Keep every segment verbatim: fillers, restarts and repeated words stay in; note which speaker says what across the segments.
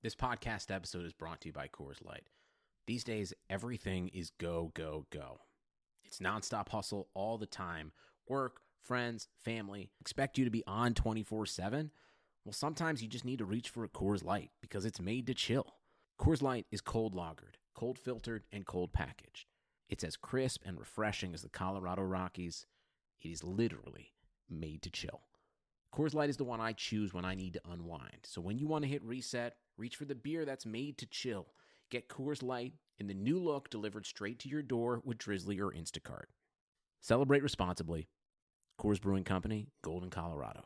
Speaker 1: This podcast episode is brought to you by Coors Light. These days, everything is go, go, go. It's nonstop hustle all the time. Work, friends, family, expect you to be on twenty-four seven. Well, sometimes you just need to reach for a Coors Light because it's made to chill. Coors Light is cold lagered, cold filtered, and cold packaged. It's as crisp and refreshing as the Colorado Rockies. It is literally made to chill. Coors Light is the one I choose when I need to unwind. So when you want to hit reset, reach for the beer that's made to chill. Get Coors Light in the new look delivered straight to your door with Drizzly or Instacart. Celebrate responsibly. Coors Brewing Company, Golden, Colorado.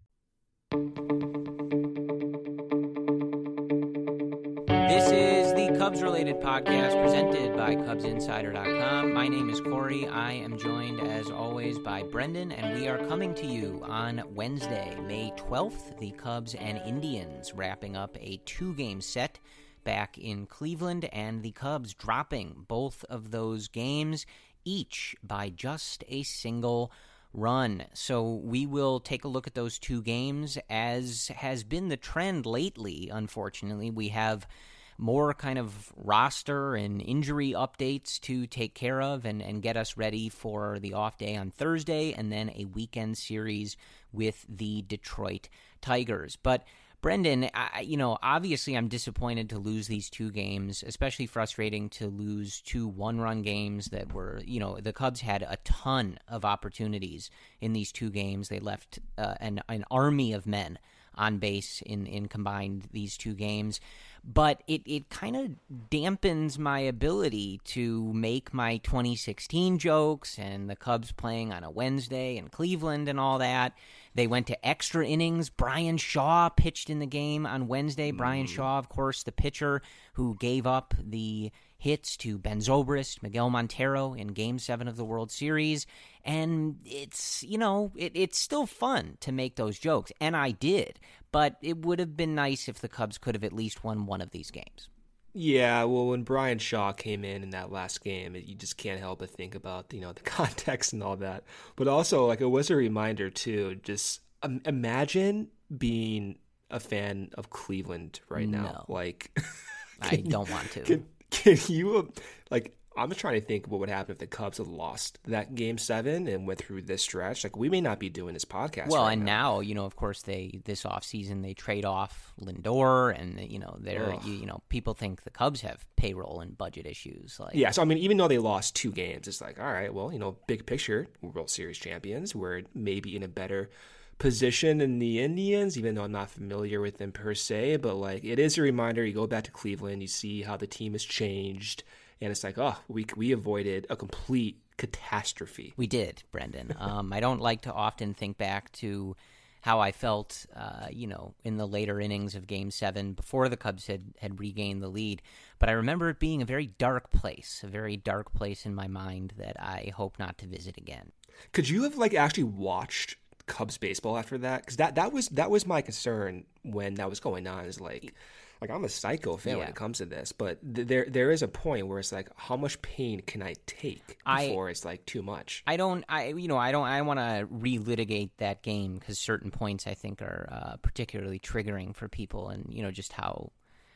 Speaker 2: This is the Cubs-related podcast presented by Cubs Insider dot com. My name is Corey. I am joined, as always, by Brendan, and we are coming to you on Wednesday, May twelfth. The Cubs and Indians wrapping up a two-game set back in Cleveland, and the Cubs dropping both of those games, each by just a single run. So we will take a look at those two games, as has been the trend lately. Unfortunately, we have more kind of roster and injury updates to take care of and, and get us ready for the off day on Thursday, and then a weekend series with the Detroit Tigers. But Brendan, I, you know, obviously I'm disappointed to lose these two games, especially frustrating to lose two one-run games that were, you know, the Cubs had a ton of opportunities in these two games. They left uh, an, an army of men on base in, in combined these two games. But it, it kind of dampens my ability to make my twenty sixteen jokes and the Cubs playing on a Wednesday in Cleveland and all that. They went to extra innings. Brian Shaw pitched in the game on Wednesday. Mm. Brian Shaw, of course, the pitcher who gave up the hits to Ben Zobrist, Miguel Montero in Game seven of the World Series. And it's, you know, it, it's still fun to make those jokes, and I did. But it would have been nice if the Cubs could have at least won one of these games.
Speaker 3: Yeah, well, when Brian Shaw came in in that last game, it, you just can't help but think about, you know, the context and all that. But also, like, it was a reminder, too, just um, imagine being a fan of Cleveland right now.
Speaker 2: No.
Speaker 3: Like,
Speaker 2: I don't
Speaker 3: you,
Speaker 2: want to.
Speaker 3: Can, can you, like, I'm just trying to think what would happen if the Cubs had lost that game seven and went through this stretch. Like, we may not be doing this podcast.
Speaker 2: Well,
Speaker 3: right
Speaker 2: and
Speaker 3: now.
Speaker 2: now, you know, of course, they this offseason they trade off Lindor, and you know, they're you, you know, people think the Cubs have payroll and budget issues. Like,
Speaker 3: yeah, so I mean, even though they lost two games, it's like, all right, well, you know, big picture, World Series champions, we're maybe in a better position than the Indians, even though I'm not familiar with them per se. But like, it is a reminder. You go back to Cleveland, you see how the team has changed. And it's like, oh, we we avoided a complete catastrophe.
Speaker 2: We did, Brendan. Um, I don't like to often think back to how I felt, uh, you know, in the later innings of Game seven before the Cubs had, had regained the lead. But I remember it being a very dark place, a very dark place in my mind that I hope not to visit again.
Speaker 3: Could you have, like, actually watched Cubs baseball after that? Because that, that, was, that was my concern when that was going on, is like... Like, I'm a psycho fan yeah. when it comes to this, but th- there there is a point where it's like, how much pain can I take before I, it's like too much?
Speaker 2: I don't, I you know, I don't, I want to relitigate that game because certain points I think are uh, particularly triggering for people, and you know just how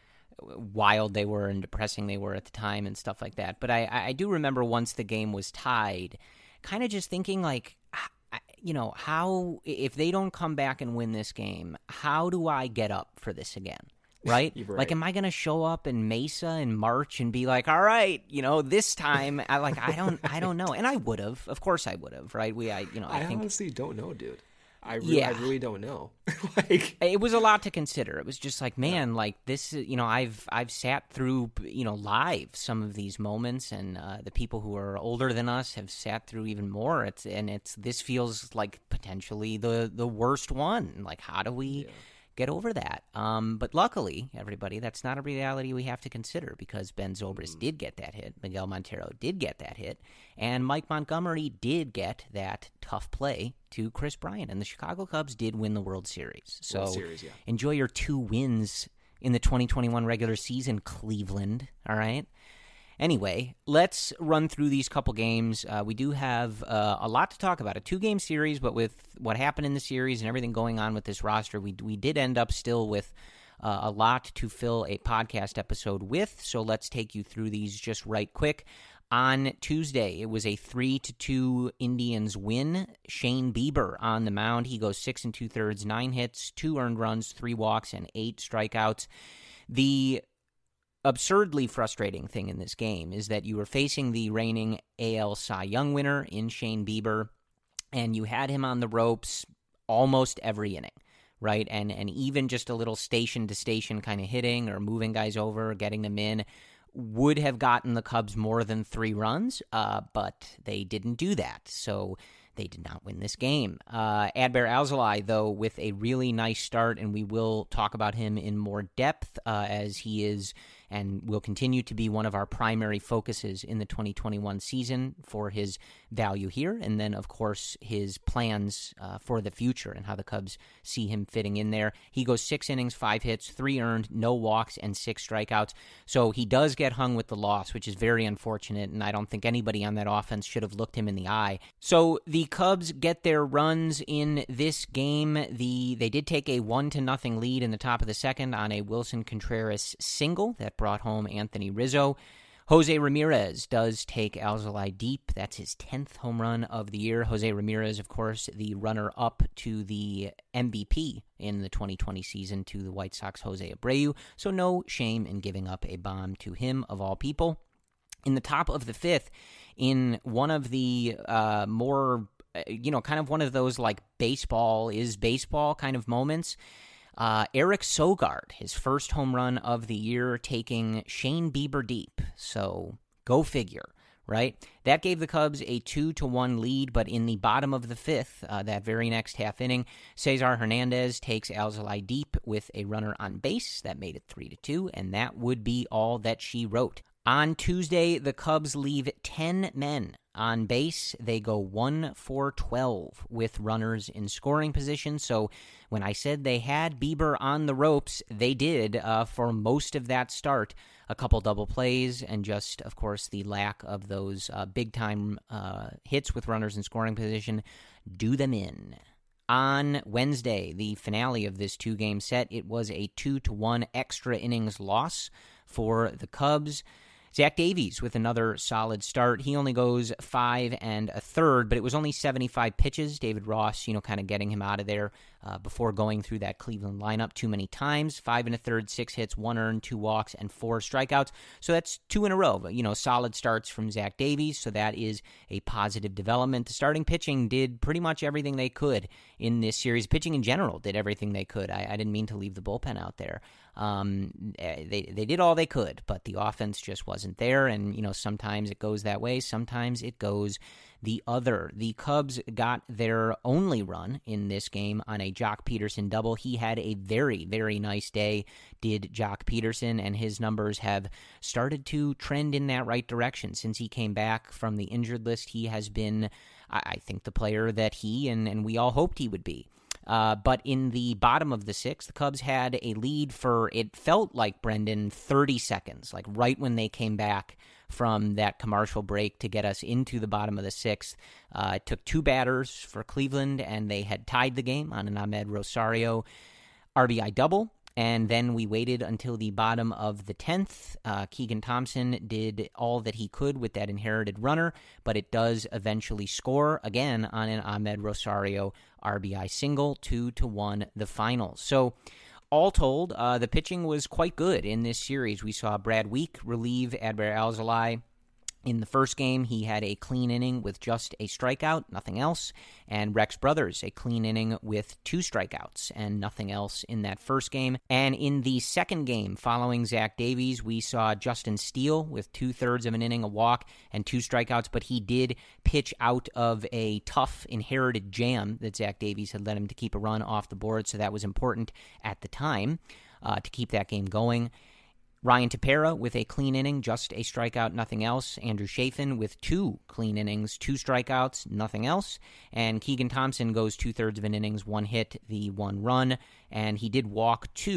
Speaker 2: wild they were and depressing they were at the time and stuff like that. But I, I do remember once the game was tied, kind of just thinking like, you know, how if they don't come back and win this game, how do I get up for this again? Right?
Speaker 3: right?
Speaker 2: Like, am I going to show up in Mesa in March and be like, all right, you know, this time, I like, I don't, I don't know. And I would have, of course I would have, right? We, I, you know, I,
Speaker 3: I
Speaker 2: think,
Speaker 3: honestly don't know, dude. I really,
Speaker 2: yeah.
Speaker 3: I really don't know. Like,
Speaker 2: it was a lot to consider. It was just like, man, yeah. like this, you know, I've, I've sat through, you know, live some of these moments, and uh, the people who are older than us have sat through even more. It's, and it's, this feels like potentially the, the worst one. Like, how do we, yeah. get over that. Um, but luckily, everybody, that's not a reality we have to consider, because Ben Zobrist mm. did get that hit, Miguel Montero did get that hit, and Mike Montgomery did get that tough play to Chris Bryant, and the Chicago Cubs did win the World Series. So
Speaker 3: World Series, yeah.
Speaker 2: Enjoy your two wins in the twenty twenty-one regular season, Cleveland, all right? Anyway, let's run through these couple games. Uh, we do have uh, a lot to talk about. A two-game series, but with what happened in the series and everything going on with this roster, we we did end up still with uh, a lot to fill a podcast episode with, so let's take you through these just right quick. On Tuesday, it was a three to two Indians win. Shane Bieber on the mound. He goes six and two-thirds, nine hits, two earned runs, three walks, and eight strikeouts. The absurdly frustrating thing in this game is that you were facing the reigning A L Cy Young winner in Shane Bieber, and you had him on the ropes almost every inning, right? And, and even just a little station-to-station kind of hitting or moving guys over, getting them in, would have gotten the Cubs more than three runs, uh, but they didn't do that, so they did not win this game. Uh, Adbert Alzolay, though, with a really nice start, and we will talk about him in more depth uh, as he is and will continue to be one of our primary focuses in the twenty twenty-one season for his value here, and then, of course, his plans uh, for the future and how the Cubs see him fitting in there. He goes six innings, five hits, three earned, no walks, and six strikeouts. So he does get hung with the loss, which is very unfortunate, and I don't think anybody on that offense should have looked him in the eye. So the Cubs get their runs in this game. The They did take a one to nothing lead in the top of the second on a Wilson Contreras single that brought home Anthony Rizzo. Jose Ramirez does take Alzolay deep. That's his tenth home run of the year. Jose Ramirez, of course, the runner-up to the M V P in the twenty twenty season to the White Sox Jose Abreu, so no shame in giving up a bomb to him, of all people. In the top of the fifth, in one of the uh, more, you know, kind of one of those, like, baseball is baseball kind of moments, Uh, Eric Sogard, his first home run of the year, taking Shane Bieber deep. So go figure, right? That gave the Cubs a two to one lead, but in the bottom of the fifth, uh, that very next half inning, Cesar Hernandez takes Alzolay deep with a runner on base. That made it three to two, and that would be all that she wrote. On Tuesday, the Cubs leave ten men on base. They go one for twelve with runners in scoring position. So when I said they had Bieber on the ropes, they did uh, for most of that start. A couple double plays and just, of course, the lack of those uh, big-time uh, hits with runners in scoring position do them in. On Wednesday, the finale of this two-game set, it was a two to one extra innings loss for the Cubs. Zach Davies with another solid start. He only goes five and a third, but it was only seventy-five pitches. David Ross, you know, kind of getting him out of there uh, before going through that Cleveland lineup too many times. Five and a third, six hits, one earned, two walks, and four strikeouts. So that's two in a row. You know, solid starts from Zach Davies, so that is a positive development. The starting pitching did pretty much everything they could in this series. Pitching in general did everything they could. I, I didn't mean to leave the bullpen out there. Um, they they did all they could, but the offense just wasn't there, and, you know, sometimes it goes that way, sometimes it goes the other. The Cubs got their only run in this game on a Jock Peterson double. He had a very, very nice day, did Jock Peterson, and his numbers have started to trend in that right direction. Since he came back from the injured list, he has been, I, I think, the player that he and, and we all hoped he would be. Uh, but in the bottom of the sixth, the Cubs had a lead for, it felt like, Brendan, thirty seconds, like right when they came back from that commercial break to get us into the bottom of the sixth. Uh, it took two batters for Cleveland, and they had tied the game on an Ahmed Rosario R B I double. And then we waited until the bottom of the tenth. Uh, Keegan Thompson did all that he could with that inherited runner, but it does eventually score again on an Ahmed Rosario R B I single, two to one the final. So all told, uh, the pitching was quite good in this series. We saw Brad Week relieve Adbert Alzolay. In the first game, he had a clean inning with just a strikeout, nothing else, and Rex Brothers, a clean inning with two strikeouts and nothing else in that first game. And in the second game, following Zach Davies, we saw Justin Steele with two-thirds of an inning, a walk, and two strikeouts, but he did pitch out of a tough inherited jam that Zach Davies had led him to keep a run off the board, so that was important at the time uh, to keep that game going. Ryan Tepera with a clean inning, just a strikeout, nothing else. Andrew Chafin with two clean innings, two strikeouts, nothing else. And Keegan Thompson goes two-thirds of an innings, one hit, the one run. And he did walk two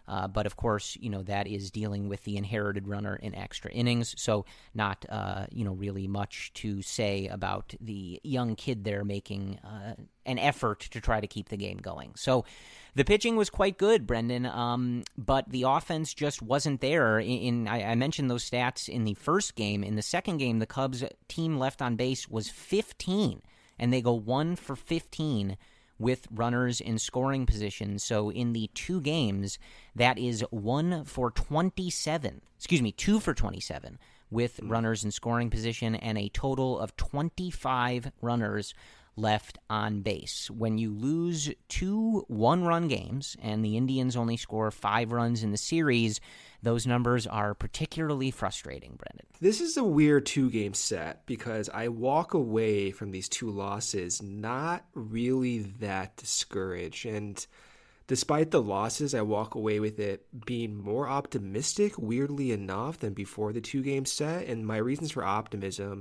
Speaker 2: Uh, but, of course, you know, that is dealing with the inherited runner in extra innings. So not, uh, you know, really much to say about the young kid there making uh, an effort to try to keep the game going. So the pitching was quite good, Brendan, um, but the offense just wasn't there. In, in I, I mentioned those stats in the first game. In the second game, the Cubs team left on base was fifteen, and they go one for fifteen with runners in scoring position. So in the two games, that is one for twenty-seven. Excuse me, two for twenty-seven with runners in scoring position and a total of twenty-five runners left on base. When you lose two one-run games and the Indians only score five runs in the series, those numbers are particularly frustrating, Brendan.
Speaker 3: This is a weird two-game set because I walk away from these two losses not really that discouraged. And despite the losses, I walk away with it being more optimistic, weirdly enough, than before the two-game set. And my reasons for optimism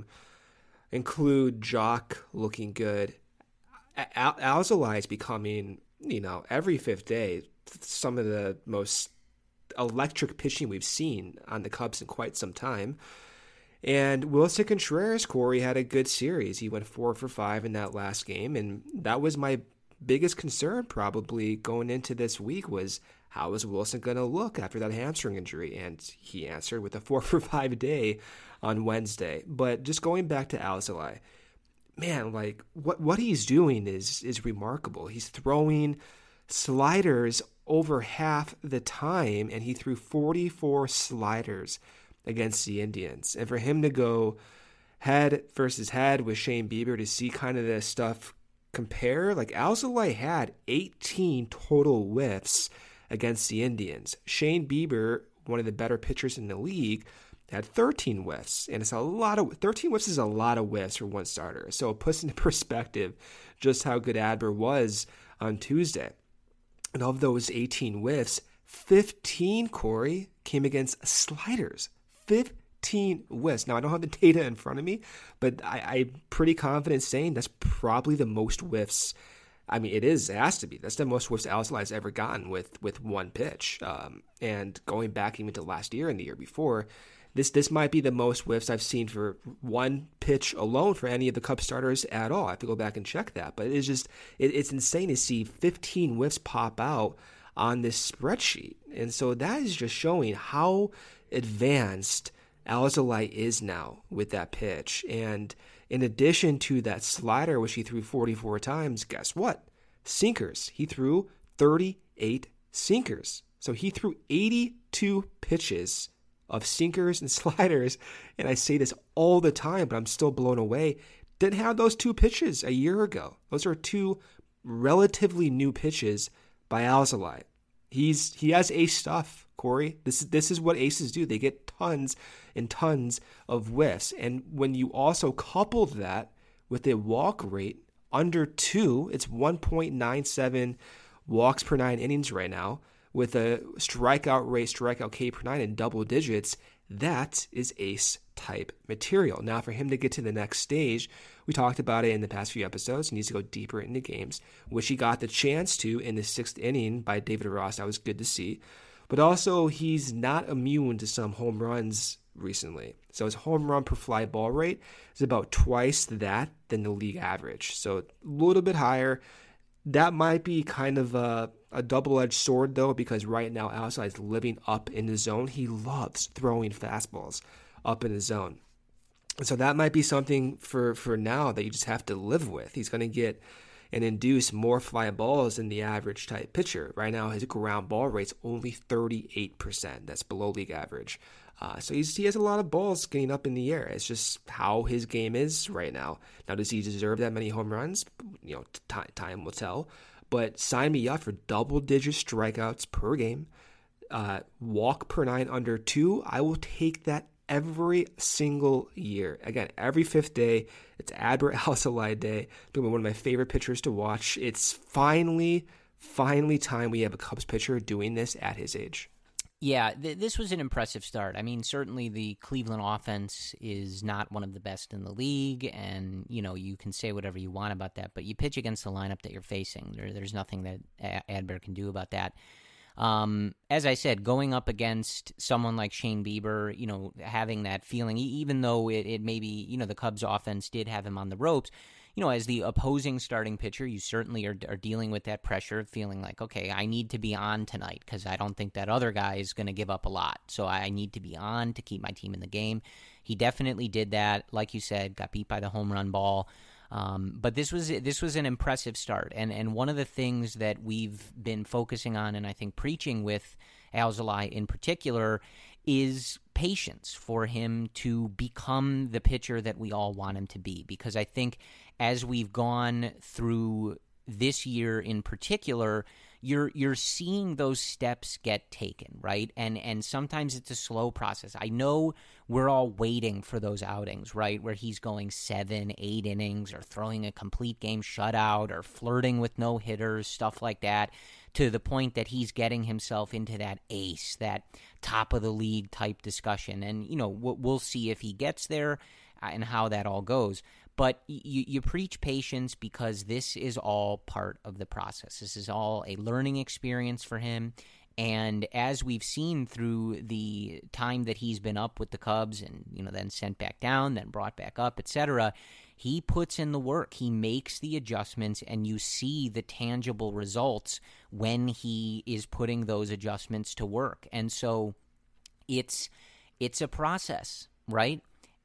Speaker 3: include Jock looking good. Al- Alzolay is becoming, you know, every fifth day, some of the most electric pitching we've seen on the Cubs in quite some time. And Wilson Contreras, Corey, had a good series. He went four for five in that last game, and that was my biggest concern probably going into this week was how is Wilson going to look after that hamstring injury? And he answered with a four for five day on Wednesday. But just going back to Alzolay, man, like what what he's doing is is remarkable. He's throwing sliders over half the time, and he threw forty-four sliders against the Indians. And for him to go head versus head with Shane Bieber to see kind of this stuff compare, like Alzolay had eighteen total whiffs against the Indians. Shane Bieber, one of the better pitchers in the league, had thirteen whiffs, and it's a lot of thirteen whiffs is a lot of whiffs for one starter. So it puts into perspective just how good Adler was on Tuesday. And of those eighteen whiffs, fifteen, Corey, came against sliders. fifteen whiffs. Now, I don't have the data in front of me, but I, I'm pretty confident saying that's probably the most whiffs. I mean, it is, it has to be. That's the most whiffs Alzolay has ever gotten with, with one pitch. Um, and going back even to last year and the year before, This this might be the most whiffs I've seen for one pitch alone for any of the Cubs starters at all. I have to go back and check that. But it's just, it, it's insane to see fifteen whiffs pop out on this spreadsheet. And so that is just showing how advanced Alzolay is now with that pitch. And in addition to that slider, which he threw forty-four times, guess what? Sinkers. He threw thirty-eight sinkers. So he threw eighty-two pitches of sinkers and sliders, and I say this all the time, but I'm still blown away. Didn't have those two pitches a year ago. Those are two relatively new pitches by Alzolay. He's he has ace stuff, Corey. This is this is what aces do. They get tons and tons of whiffs, and when you also couple that with a walk rate under two, it's one point nine seven walks per nine innings right now, with a strikeout rate, strikeout K per nine in double digits, that is ace-type material. Now, for him to get to the next stage, we talked about it in the past few episodes. He needs to go deeper into games, which he got the chance to in the sixth inning by David Ross. That was good to see. But also, he's not immune to some home runs recently. So his home run per fly ball rate is about twice that than the league average. So a little bit higher. That might be kind of a, a double-edged sword, though, because right now Alzolay is living up in the zone. He loves throwing fastballs up in the zone. And so that might be something for, for now that you just have to live with. He's going to get and induce more fly balls than the average type pitcher. Right now, his ground ball rate's only thirty-eight percent. That's below league average. Uh, so he's, he has a lot of balls getting up in the air. It's just how his game is right now. Now, does he deserve that many home runs? You know, t- time will tell. But sign me up for double-digit strikeouts per game, uh, walk per nine under two. I will take that every single year. Again, every fifth day, it's Adbert Alzolay Day. One of my favorite pitchers to watch. It's finally, finally time we have a Cubs pitcher doing this at his age.
Speaker 2: Yeah, th- this was an impressive start. I mean, certainly the Cleveland offense is not one of the best in the league, and, you know, you can say whatever you want about that, but you pitch against the lineup that you're facing. There, there's nothing that a- Adbert can do about that. Um, as I said, going up against someone like Shane Bieber, you know, having that feeling, even though it, it maybe, you know, the Cubs offense did have him on the ropes, you know, as the opposing starting pitcher, you certainly are, are dealing with that pressure of feeling like, okay, I need to be on tonight because I don't think that other guy is going to give up a lot. So I need to be on to keep my team in the game. He definitely did that. Like you said, got beat by the home run ball. Um, but this was this was an impressive start. And, and one of the things that we've been focusing on and I think preaching with Alzolay in particular is patience for him to become the pitcher that we all want him to be. Because I think as we've gone through this year in particular, you're you're seeing those steps get taken, right? And and sometimes it's a slow process. I know we're all waiting for those outings, right, where he's going seven, eight innings or throwing a complete game shutout or flirting with no hitters, stuff like that, to the point that he's getting himself into that ace, that top of the league type discussion. And, you know, we'll see if he gets there and how that all goes. But you, you preach patience because this is all part of the process. This is all a learning experience for him. And as we've seen through the time that he's been up with the Cubs and, you know, then sent back down, then brought back up, et cetera, he puts in the work. He makes the adjustments, and you see the tangible results when he is putting those adjustments to work. And so it's it's a process, right?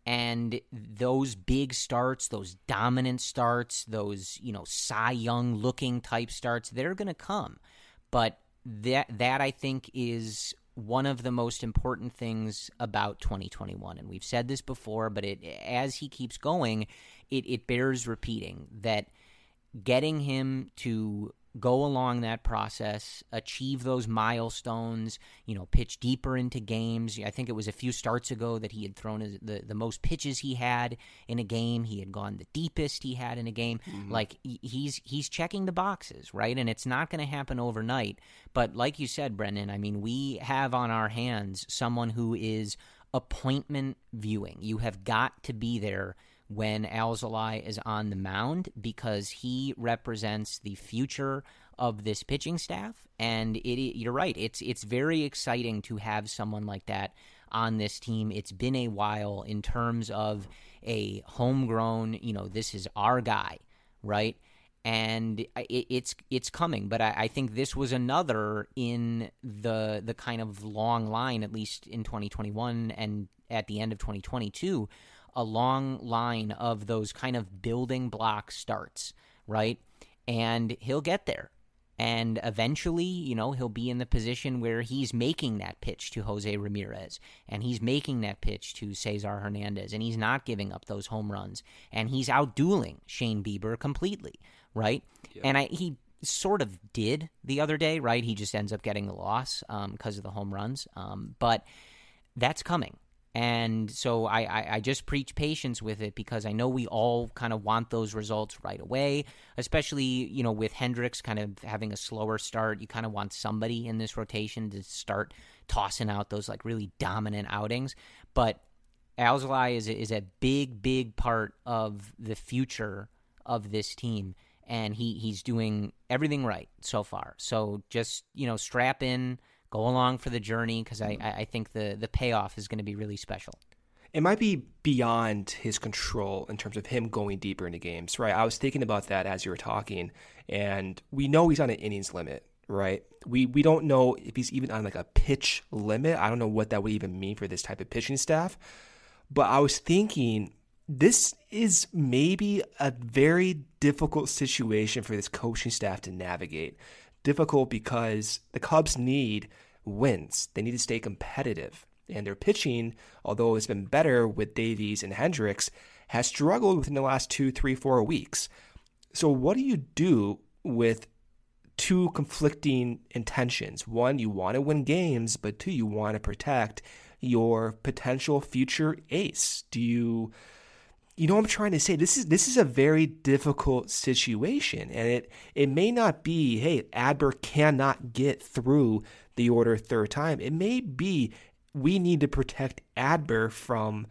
Speaker 2: And those big starts, those dominant starts, those, you know, Cy Young looking type starts, they're going to come. But that that I think is one of the most important things about twenty twenty-one. And we've said this before, but it as he keeps going, it, it bears repeating that getting him to go along that process, achieve those milestones, you know, pitch deeper into games. I think it was a few starts ago that he had thrown his, the, the most pitches he had in a game. He had gone the deepest he had in a game. Mm-hmm. Like, he's he's checking the boxes, right? And it's not going to happen overnight. But like you said, Brendan, I mean, we have on our hands someone who is appointment viewing. You have got to be there when Alzolay is on the mound because he represents the future of this pitching staff. And it, you're right, it's it's very exciting to have someone like that on this team. It's been a while in terms of a homegrown, you know, this is our guy, right? And it, it's it's coming, but I, I think this was another in the the kind of long line, at least in twenty twenty-one and at the end of twenty twenty-two, a long line of those kind of building block starts, right? And he'll get there. And eventually, you know, he'll be in the position where he's making that pitch to Jose Ramirez, and he's making that pitch to Cesar Hernandez, and he's not giving up those home runs, and he's outdueling Shane Bieber completely, right? Yeah. And I, he sort of did the other day, right? He just ends up getting the loss um, because of the home runs. Um, but that's coming. And so I, I, I just preach patience with it because I know we all kind of want those results right away, especially, you know, with Hendricks kind of having a slower start. You kind of want somebody in this rotation to start tossing out those like really dominant outings. But Alzolay is, is a big, big part of the future of this team, and he, he's doing everything right so far. So just, you know, strap in, go along for the journey because I, I think the, the payoff is going to be really special.
Speaker 3: It might be beyond his control in terms of him going deeper into games, right? I was thinking about that as you were talking, and we know he's on an innings limit, right? We we don't know if he's even on like a pitch limit. I don't know what that would even mean for this type of pitching staff. But I was thinking this is maybe a very difficult situation for this coaching staff to navigate. Difficult because the Cubs need wins. They need to stay competitive. And their pitching, although it's been better with Davies and Hendricks, has struggled within the last two, three, four weeks. So what do you do with two conflicting intentions? One, you want to win games, but two, you want to protect your potential future ace. Do you... You know what I'm trying to say? This is this is a very difficult situation, and it it may not be, hey, Adbert cannot get through the order third time. It may be we need to protect Adbert from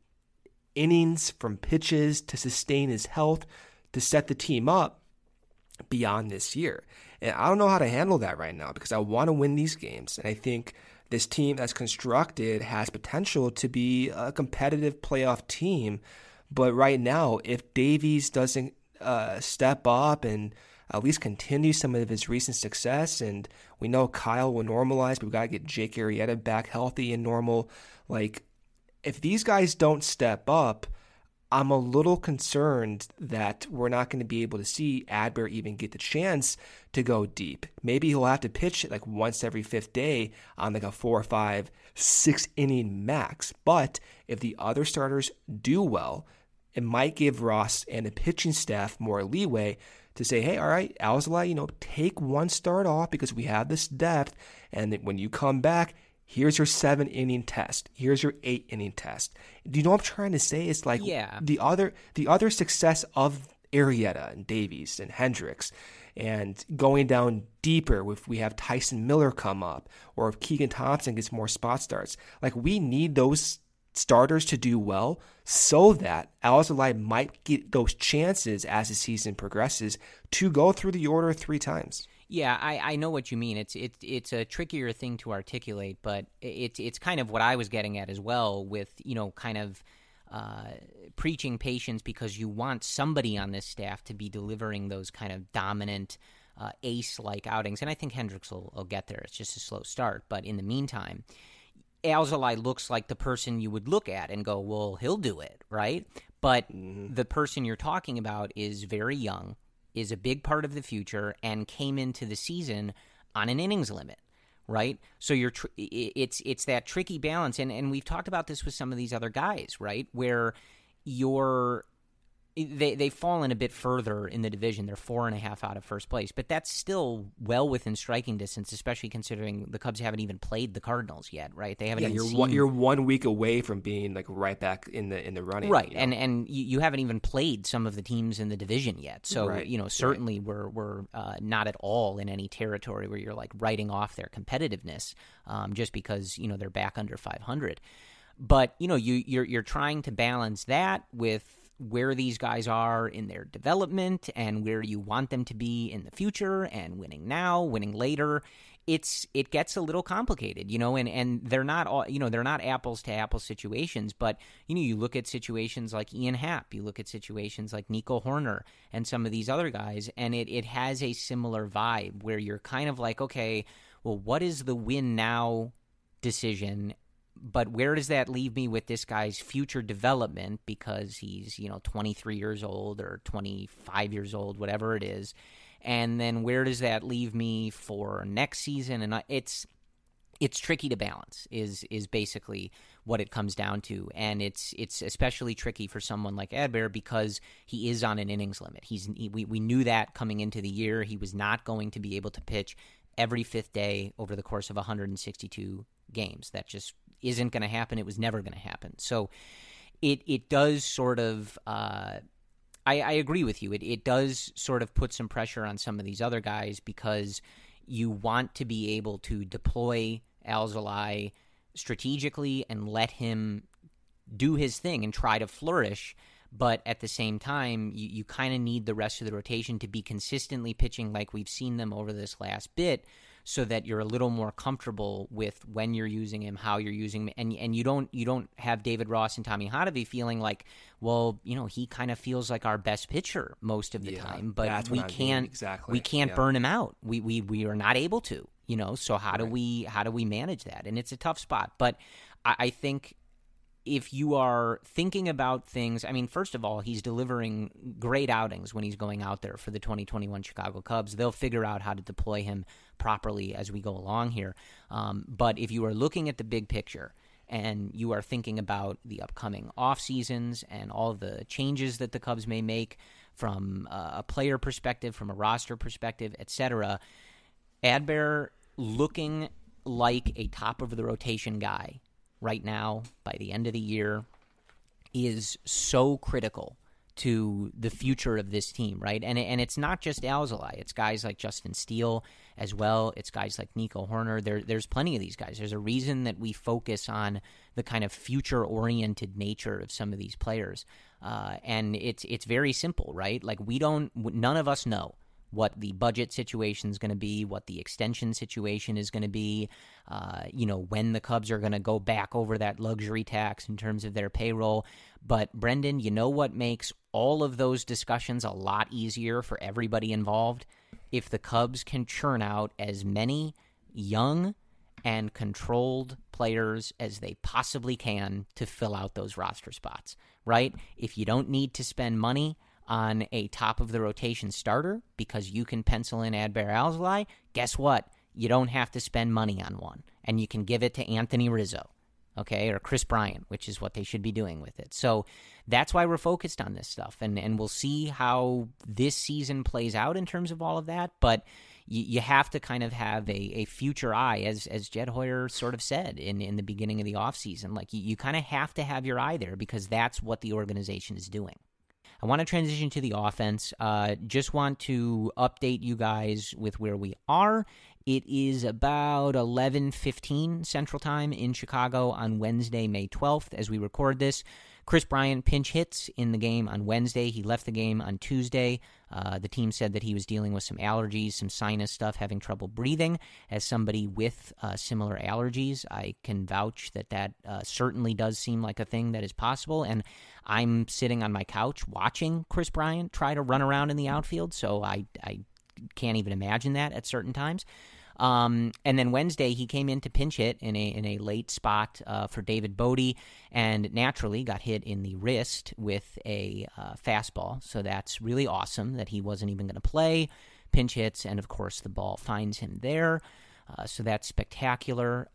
Speaker 3: innings, from pitches, to sustain his health, to set the team up beyond this year. And I don't know how to handle that right now because I want to win these games. And I think this team that's constructed has potential to be a competitive playoff team. But right now, if Davies doesn't uh, step up and at least continue some of his recent success, and we know Kyle will normalize, but we've got to get Jake Arrieta back healthy and normal. Like, if these guys don't step up, I'm a little concerned that we're not going to be able to see Adbert even get the chance to go deep. Maybe he'll have to pitch like once every fifth day on like a four or five, six inning max. But if the other starters do well, it might give Ross and the pitching staff more leeway to say, hey, all right, Alzolay, you know, take one start off because we have this depth. And when you come back, here's your seven inning test. Here's your eight inning test. Do you know what I'm trying to say? It's like
Speaker 2: yeah.
Speaker 3: the other the other success of Arrieta and Davies and Hendricks, and going down deeper if we have Tyson Miller come up, or if Keegan Thompson gets more spot starts. Like, we need those starters to do well so that Alzolay might get those chances as the season progresses to go through the order three times.
Speaker 2: Yeah, I, I know what you mean. It's it's it's a trickier thing to articulate, but it's it's kind of what I was getting at as well with, you know, kind of uh, preaching patience because you want somebody on this staff to be delivering those kind of dominant uh, ace-like outings. And I think Hendricks will, will get there. It's just a slow start. But in the meantime, Alzolay looks like the person you would look at and go, well, he'll do it, right? But mm-hmm. the person you're talking about is very young, is a big part of the future, and came into the season on an innings limit, right? So you're tr- it's it's that tricky balance, and, and we've talked about this with some of these other guys, right, where you're they they've fallen a bit further in the division. They're four and a half out of first place, but that's still well within striking distance, especially considering the Cubs haven't even played the Cardinals yet, right? They haven't.
Speaker 3: Yeah,
Speaker 2: even
Speaker 3: you're
Speaker 2: seen...
Speaker 3: one, you're one week away from being like right back in the in the running,
Speaker 2: right?
Speaker 3: You know?
Speaker 2: And and you, you haven't even played some of the teams in the division yet, so
Speaker 3: right.
Speaker 2: you know certainly right. we're we're uh, not at all in any territory where you're like writing off their competitiveness um, just because you know they're back under five hundred. But you know you you're you're trying to balance that with where these guys are in their development and where you want them to be in the future, and winning now, winning later. It's it gets a little complicated, you know, and, and they're not all, you know, they're not apples to apples situations, but you know, you look at situations like Ian Happ, you look at situations like Nico Horner and some of these other guys, and it, it has a similar vibe where you're kind of like, okay, well, what is the win now decision? But where does that leave me with this guy's future development, because he's, you know, twenty-three years old or twenty-five years old, whatever it is. And then where does that leave me for next season? And it's it's tricky to balance is is basically what it comes down to. And it's it's especially tricky for someone like Adbert because he is on an innings limit. He's he, we, we knew that coming into the year. He was not going to be able to pitch every fifth day over the course of one hundred sixty-two games. That just isn't going to happen. It was never going to happen. So it it does sort of uh, I, I agree with you. It it does sort of put some pressure on some of these other guys because you want to be able to deploy Alzolay strategically and let him do his thing and try to flourish. But at the same time, you, you kind of need the rest of the rotation to be consistently pitching like we've seen them over this last bit, so that you're a little more comfortable with when you're using him, how you're using him, and and you don't you don't have David Ross and Tommy Hotovy feeling like, well, you know, he kind of feels like our best pitcher most of the
Speaker 3: yeah,
Speaker 2: time, but we can't
Speaker 3: exactly.
Speaker 2: we can't
Speaker 3: yeah.
Speaker 2: burn him out. We we we are not able to, you know. So how
Speaker 3: right.
Speaker 2: do we how do we manage that? And it's a tough spot, but I, I think if you are thinking about things, I mean, first of all, he's delivering great outings when he's going out there for the twenty twenty-one Chicago Cubs. They'll figure out how to deploy him properly as we go along here. Um, but if you are looking at the big picture and you are thinking about the upcoming off seasons and all the changes that the Cubs may make from a player perspective, from a roster perspective, et cetera, Adbert looking like a top-of-the-rotation guy right now by the end of the year is so critical to the future of this team, right? And and it's not just Alzolay. It's guys like Justin Steele as well. It's guys like Nico Horner. There, there's plenty of these guys. There's a reason that we focus on the kind of future-oriented nature of some of these players. Uh, and it's it's very simple, right? Like we don't, none of us know what the budget situation is going to be, what the extension situation is going to be, uh, you know, when the Cubs are going to go back over that luxury tax in terms of their payroll. But Brendan, you know what makes all of those discussions a lot easier for everybody involved? If the Cubs can churn out as many young and controlled players as they possibly can to fill out those roster spots, right? If you don't need to spend money on a top-of-the-rotation starter because you can pencil in Adbert Alzolay, guess what? You don't have to spend money on one, and you can give it to Anthony Rizzo, okay, or Chris Bryant, which is what they should be doing with it. So that's why we're focused on this stuff, and, and we'll see how this season plays out in terms of all of that, but you, you have to kind of have a, a future eye, as as Jed Hoyer sort of said in, in the beginning of the offseason. Like, you, you kind of have to have your eye there because that's what the organization is doing. I want to transition to the offense. Uh, just want to update you guys with where we are. It is about eleven fifteen Central Time in Chicago on Wednesday, May twelfth, as we record this. Chris Bryant pinch hits in the game on Wednesday. He left the game on Tuesday. Uh, the team said that he was dealing with some allergies, some sinus stuff, having trouble breathing. As somebody with uh, similar allergies, I can vouch that that uh, certainly does seem like a thing that is possible. And I'm sitting on my couch watching Chris Bryant try to run around in the outfield, so I, I can't even imagine that at certain times. Um, and then Wednesday, he came in to pinch hit in a in a late spot uh, for David Bodie, and naturally got hit in the wrist with a uh, fastball. So that's really awesome that he wasn't even going to play. Pinch hits, and of course the ball finds him there. Uh, so that's spectacular.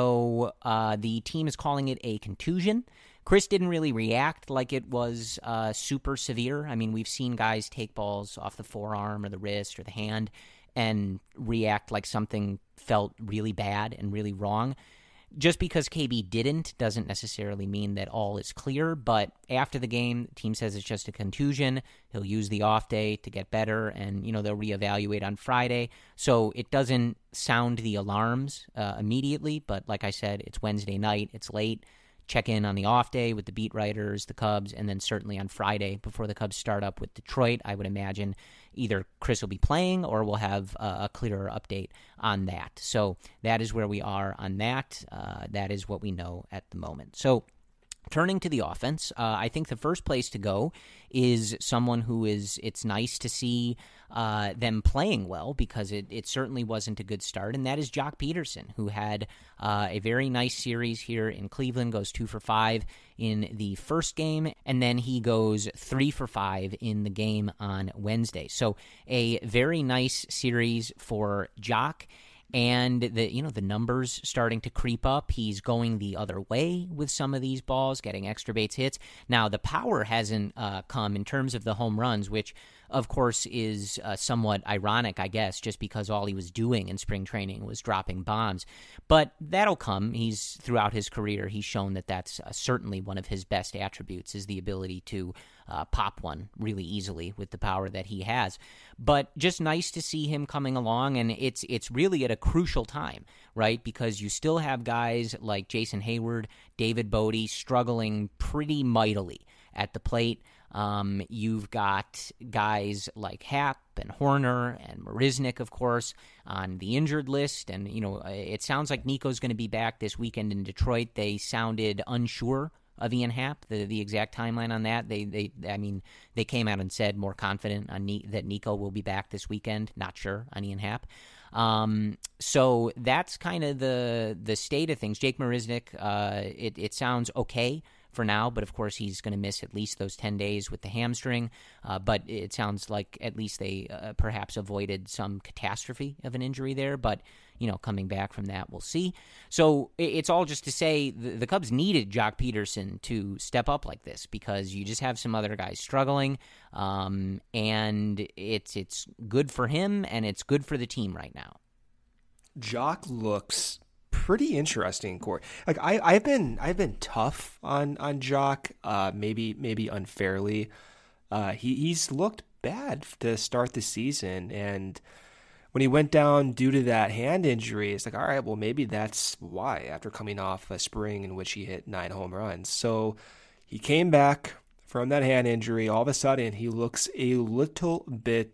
Speaker 2: So uh, the team is calling it a contusion. Chris didn't really react like it was uh, super severe. I mean, we've seen guys take balls off the forearm or the wrist or the hand and react like something felt really bad and really wrong. Just because K B didn't doesn't necessarily mean that all is clear, but after the game, the team says it's just a contusion. He'll use the off day to get better, and, you know, they'll reevaluate on Friday. So it doesn't sound the alarms uh, immediately, but like I said, it's Wednesday night, it's late. Check in on the off day with the beat writers, the Cubs, and then certainly on Friday before the Cubs start up with Detroit. I would imagine either Chris will be playing or we'll have uh, a clearer update on that. So that is where we are on that. Uh, that is what we know at the moment. So turning to the offense, uh, I think the first place to go is someone who is, it's nice to see uh, them playing well because it, it certainly wasn't a good start, and that is Joc Pederson, who had uh, a very nice series here in Cleveland, goes two for five in the first game, and then he goes three for five in the game on Wednesday. So a very nice series for Joc. And the you know the numbers starting to creep up. He's going the other way with some of these balls, getting extra base hits. Now the power hasn't uh, come in terms of the home runs, which of course is uh, somewhat ironic, I guess, just because all he was doing in spring training was dropping bombs. But that'll come. He's throughout his career, he's shown that that's uh, certainly one of his best attributes is the ability to uh, pop one really easily with the power that he has. But just nice to see him coming along, and it's it's really at a crucial time, right? Because you still have guys like Jason Hayward, David Bodie struggling pretty mightily at the plate. Um, you've got guys like Happ and Horner and Marisnick, of course, on the injured list. And, you know, it sounds like Nico's going to be back this weekend in Detroit. They sounded unsure of Ian Happ, the the exact timeline on that. They, they I mean, they came out and said more confident on Ni- that Nico will be back this weekend. Not sure on Ian Happ. Um, so that's kind of the the state of things. Jake Marisnick, uh, it, it sounds okay for now, but of course he's going to miss at least those ten days with the hamstring. Uh, but it sounds like at least they uh, perhaps avoided some catastrophe of an injury there. But, you know, coming back from that, we'll see. So it's all just to say the, the Cubs needed Joc Pederson to step up like this because you just have some other guys struggling, um, and it's it's good for him and it's good for the team right now.
Speaker 3: Joc looks pretty interesting, Corey. Like I, I've been, I've been tough on on Joc, uh, maybe, maybe unfairly. Uh, he he's looked bad to start the season, and when he went down due to that hand injury, it's like, all right, well, maybe that's why. After coming off a spring in which he hit nine home runs, so he came back from that hand injury. All of a sudden, he looks a little bit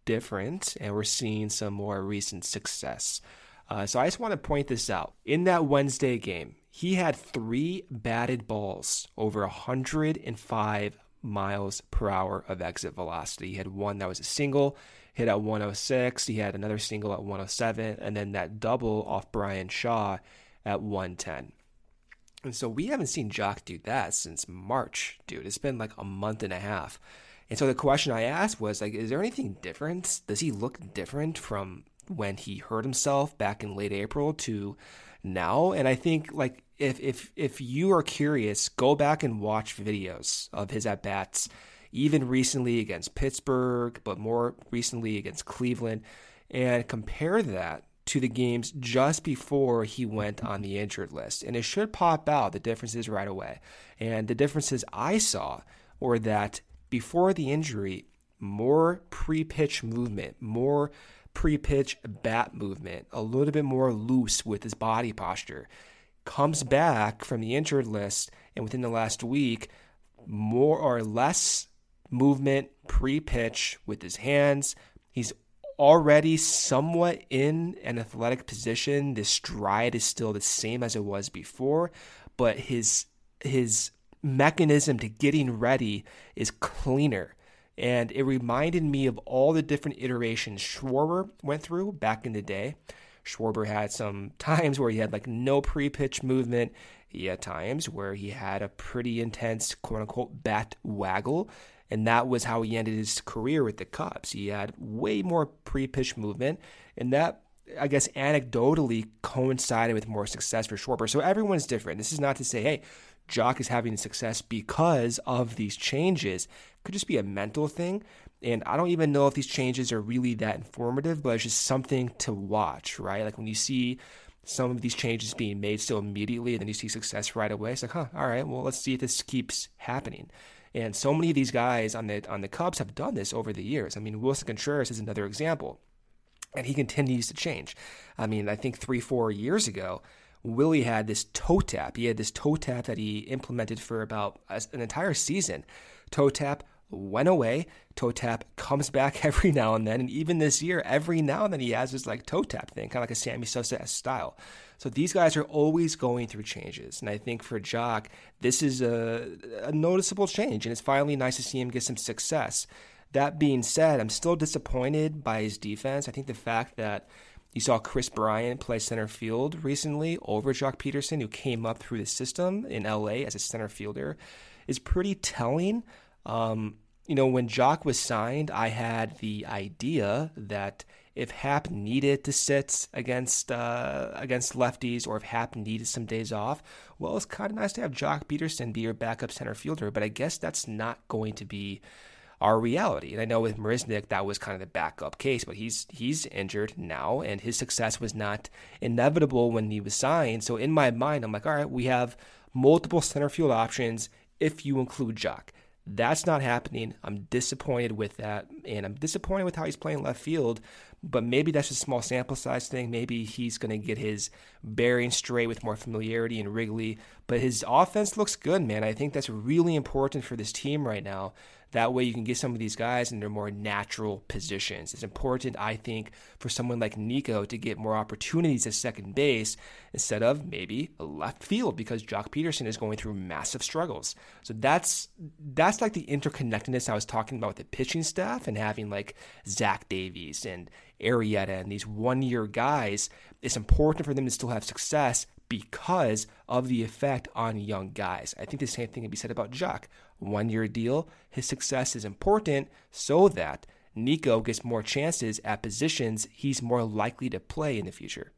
Speaker 3: different, and we're seeing some more recent success. Uh, so I just want to point this out. In that Wednesday game, he had three batted balls over one hundred five miles per hour of exit velocity. He had one that was a single, hit at one oh six. He had another single at one oh seven, and then that double off Brian Shaw at one ten. And so we haven't seen Jock do that since March, dude. It's been like a month and a half. And so the question I asked was, like, is there anything different? Does he look different from when he hurt himself back in late April to now? And I think, like, if if if you are curious, go back and watch videos of his at-bats, even recently against Pittsburgh, but more recently against Cleveland, and compare that to the games just before he went on the injured list. And it should pop out the differences right away. And the differences I saw were that before the injury, more pre-pitch movement, more pre-pitch bat movement, a little bit more loose with his body posture. Comes back from the injured list, and within the last week, more or less movement pre-pitch with his hands. He's already somewhat in an athletic position. The stride is still the same as it was before, but his his mechanism to getting ready is cleaner. And it reminded me of all the different iterations Schwarber went through back in the day. Schwarber had some times where he had like no pre-pitch movement. He had times where he had a pretty intense quote-unquote bat waggle. And that was how he ended his career with the Cubs. He had way more pre-pitch movement. And that, I guess, anecdotally coincided with more success for Schwarber. So everyone's different. This is not to say, hey, Jock is having success because of these changes. It could just be a mental thing. And I don't even know if these changes are really that informative, but it's just something to watch, right? Like when you see some of these changes being made so immediately and then you see success right away, it's like, huh, all right, well, let's see if this keeps happening. And so many of these guys on the on the Cubs have done this over the years. I mean, Wilson Contreras is another example. And he continues to change. I mean, I think three, four years ago, Willie had this toe tap. He had this toe tap that he implemented for about an entire season. Toe tap went away. Toe tap comes back every now and then. And even this year, every now and then he has this like toe tap thing, kind of like a Sammy Sosa style. So these guys are always going through changes. And I think for Jock, this is a, a noticeable change. And it's finally nice to see him get some success. That being said, I'm still disappointed by his defense. I think the fact that you saw Chris Bryant play center field recently over Jock Peterson, who came up through the system in L A as a center fielder, is pretty telling. Um, you know, when Jock was signed, I had the idea that if Happ needed to sit against uh, against lefties, or if Happ needed some days off, well, it's kind of nice to have Jock Peterson be your backup center fielder. But I guess that's not going to be our reality. And I know with Marisnick, that was kind of the backup case, but he's he's injured now, and his success was not inevitable when he was signed. So in my mind, I'm like, all right, we have multiple center field options if you include Jock. That's not happening. I'm disappointed with that, and I'm disappointed with how he's playing left field, but maybe that's just a small sample size thing. Maybe he's going to get his bearing straight with more familiarity in Wrigley, but his offense looks good, man. I think that's really important for this team right now. That way you can get some of these guys in their more natural positions. It's important, I think, for someone like Nico to get more opportunities at second base instead of maybe a left field, because Jock Peterson is going through massive struggles. So that's that's like the interconnectedness I was talking about with the pitching staff, and having like Zach Davies and Arrieta and these one-year guys. It's important for them to still have success because of the effect on young guys. I think the same thing can be said about Jock. One-year deal, his success is important so that Nico gets more chances at positions he's more likely to play in the future.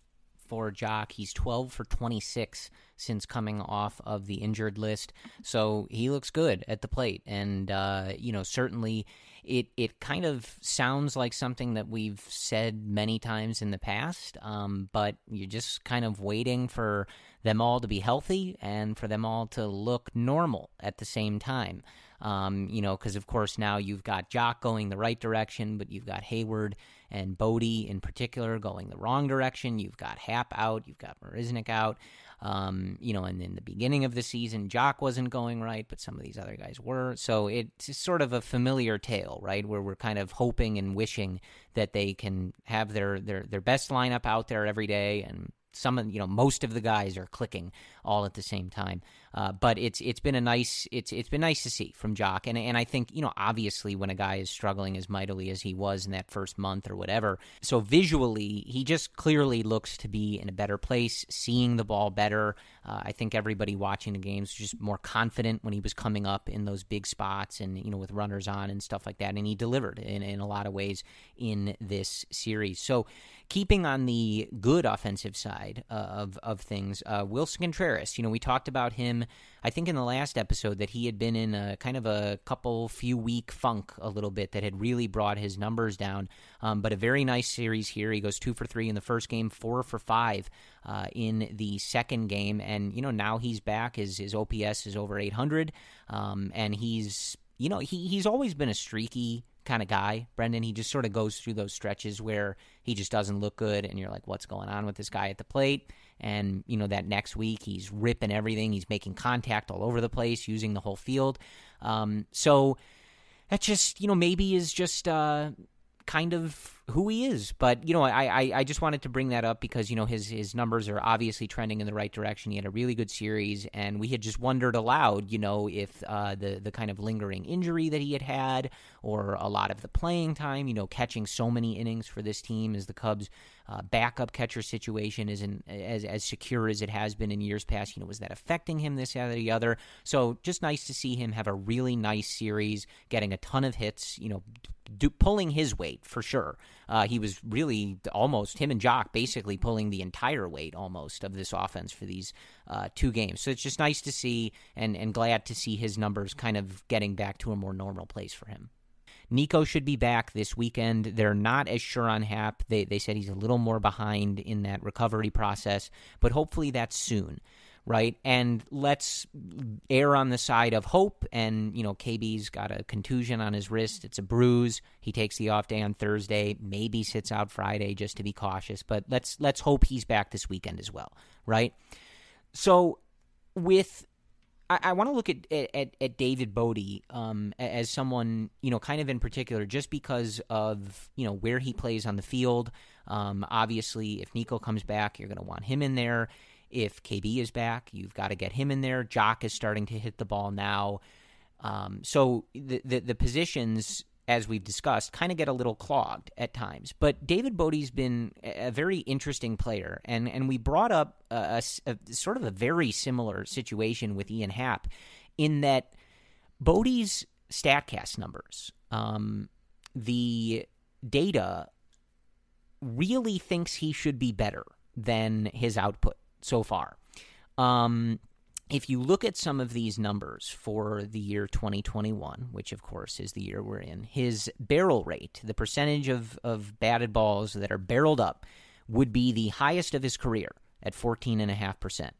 Speaker 2: For Jock, he's twelve for twenty-six since coming off of the injured list, so he looks good at the plate. And, uh, you know, certainly it it kind of sounds like something that we've said many times in the past, um, but you're just kind of waiting for them all to be healthy and for them all to look normal at the same time. Um, you know, because of course now you've got Jock going the right direction, but you've got Hayward and Bodie in particular going the wrong direction. You've got Happ out, you've got Marisnick out. Um, you know, and in the beginning of the season, Jock wasn't going right, but some of these other guys were. So it's sort of a familiar tale, right, where we're kind of hoping and wishing that they can have their, their, their best lineup out there every day, and some of, you know, most of the guys are clicking all at the same time. Uh, but it's it's been a nice it's it's been nice to see from Jock, and and I think, you know, obviously when a guy is struggling as mightily as he was in that first month or whatever, so visually he just clearly looks to be in a better place, seeing the ball better. Uh, I think everybody watching the games was just more confident when he was coming up in those big spots and, you know, with runners on and stuff like that, and he delivered in in a lot of ways in this series. So keeping on the good offensive side uh, of of things, uh, Wilson Contreras, you know, we talked about him, I think in the last episode, that he had been in a kind of a couple few week funk a little bit that had really brought his numbers down. Um, but a very nice series here. He goes two for three in the first game, four for five uh, in the second game. And, you know, now he's back. His, his O P S is over eight hundred. Um, and he's, you know, he he's always been a streaky kind of guy, Brendan. He just sort of goes through those stretches where he just doesn't look good, and you're like, what's going on with this guy at the plate? And, you know, that next week he's ripping everything. He's making contact all over the place, using the whole field. Um, so that just, you know, maybe is just uh, kind of who he is. But, you know, I, I, I just wanted to bring that up because, you know, his, his numbers are obviously trending in the right direction. He had a really good series, and we had just wondered aloud, you know, if uh, the, the kind of lingering injury that he had had, or a lot of the playing time, you know, catching so many innings for this team as the Cubs' uh, backup catcher situation isn't as, as secure as it has been in years past. You know, was that affecting him, this, that, or the other? So just nice to see him have a really nice series, getting a ton of hits, you know, do, pulling his weight for sure. Uh, he was really almost, him and Jock basically pulling the entire weight almost of this offense for these uh, two games. So it's just nice to see, and, and glad to see his numbers kind of getting back to a more normal place for him. Nico should be back this weekend. They're not as sure on Happ. They they said he's a little more behind in that recovery process, but hopefully that's soon, right? And let's err on the side of hope. And, you know, K B's got a contusion on his wrist. It's a bruise. He takes the off day on Thursday, maybe sits out Friday just to be cautious. But let's let's hope he's back this weekend as well, right? So with I, I want to look at, at at David Bote um, as someone, you know, kind of in particular, just because of, you know, where he plays on the field. Um, obviously, if Nico comes back, you're going to want him in there. If K B is back, you've got to get him in there. Jock is starting to hit the ball now. Um, so the, the the positions, as we've discussed, kind of get a little clogged at times. But David Bote's been a very interesting player, and, and we brought up a, a, a sort of a very similar situation with Ian Happ in that Bote's StatCast numbers, um, the data really thinks he should be better than his output so far. Um, if you look at some of these numbers for the year twenty twenty-one, which of course is the year we're in, his barrel rate, the percentage of, of batted balls that are barreled up, would be the highest of his career at fourteen point five percent.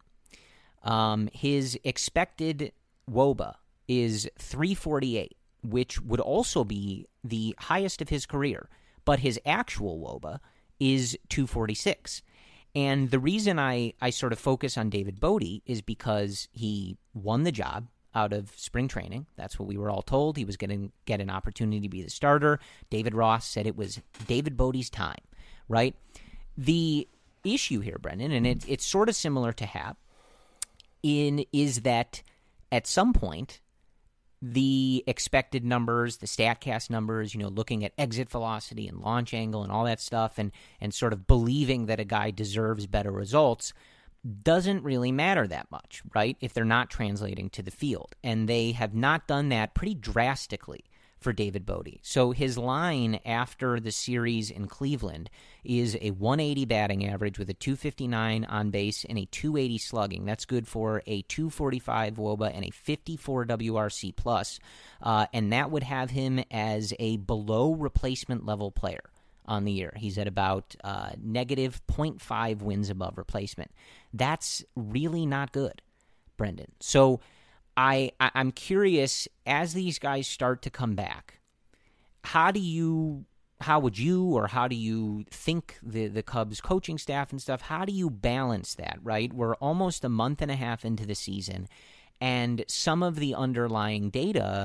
Speaker 2: Um, his expected W O B A is three forty-eight, which would also be the highest of his career, but his actual W O B A is two forty-six. And the reason I, I sort of focus on David Bote is because he won the job out of spring training. That's what we were all told. He was going to get an opportunity to be the starter. David Ross said it was David Bote's time, right? The issue here, Brendan, and it, it's sort of similar to Happ, in is that at some point, the expected numbers, the StatCast numbers, you know, looking at exit velocity and launch angle and all that stuff, and and sort of believing that a guy deserves better results, doesn't really matter that much, right, if they're not translating to the field. And they have not done that pretty drastically for David Bote. So his line after the series in Cleveland is a one eighty batting average with a two fifty-nine on base and a two eighty slugging. That's good for a two forty-five W O B A and a fifty-four W R C plus, uh, and that would have him as a below replacement level player on the year. He's at about uh, negative zero point five wins above replacement. That's really not good, Brendan. So I, I I'm curious, as these guys start to come back, how do you how would you, or how do you think the, the Cubs coaching staff and stuff, how do you balance that, right? We're almost a month and a half into the season, and some of the underlying data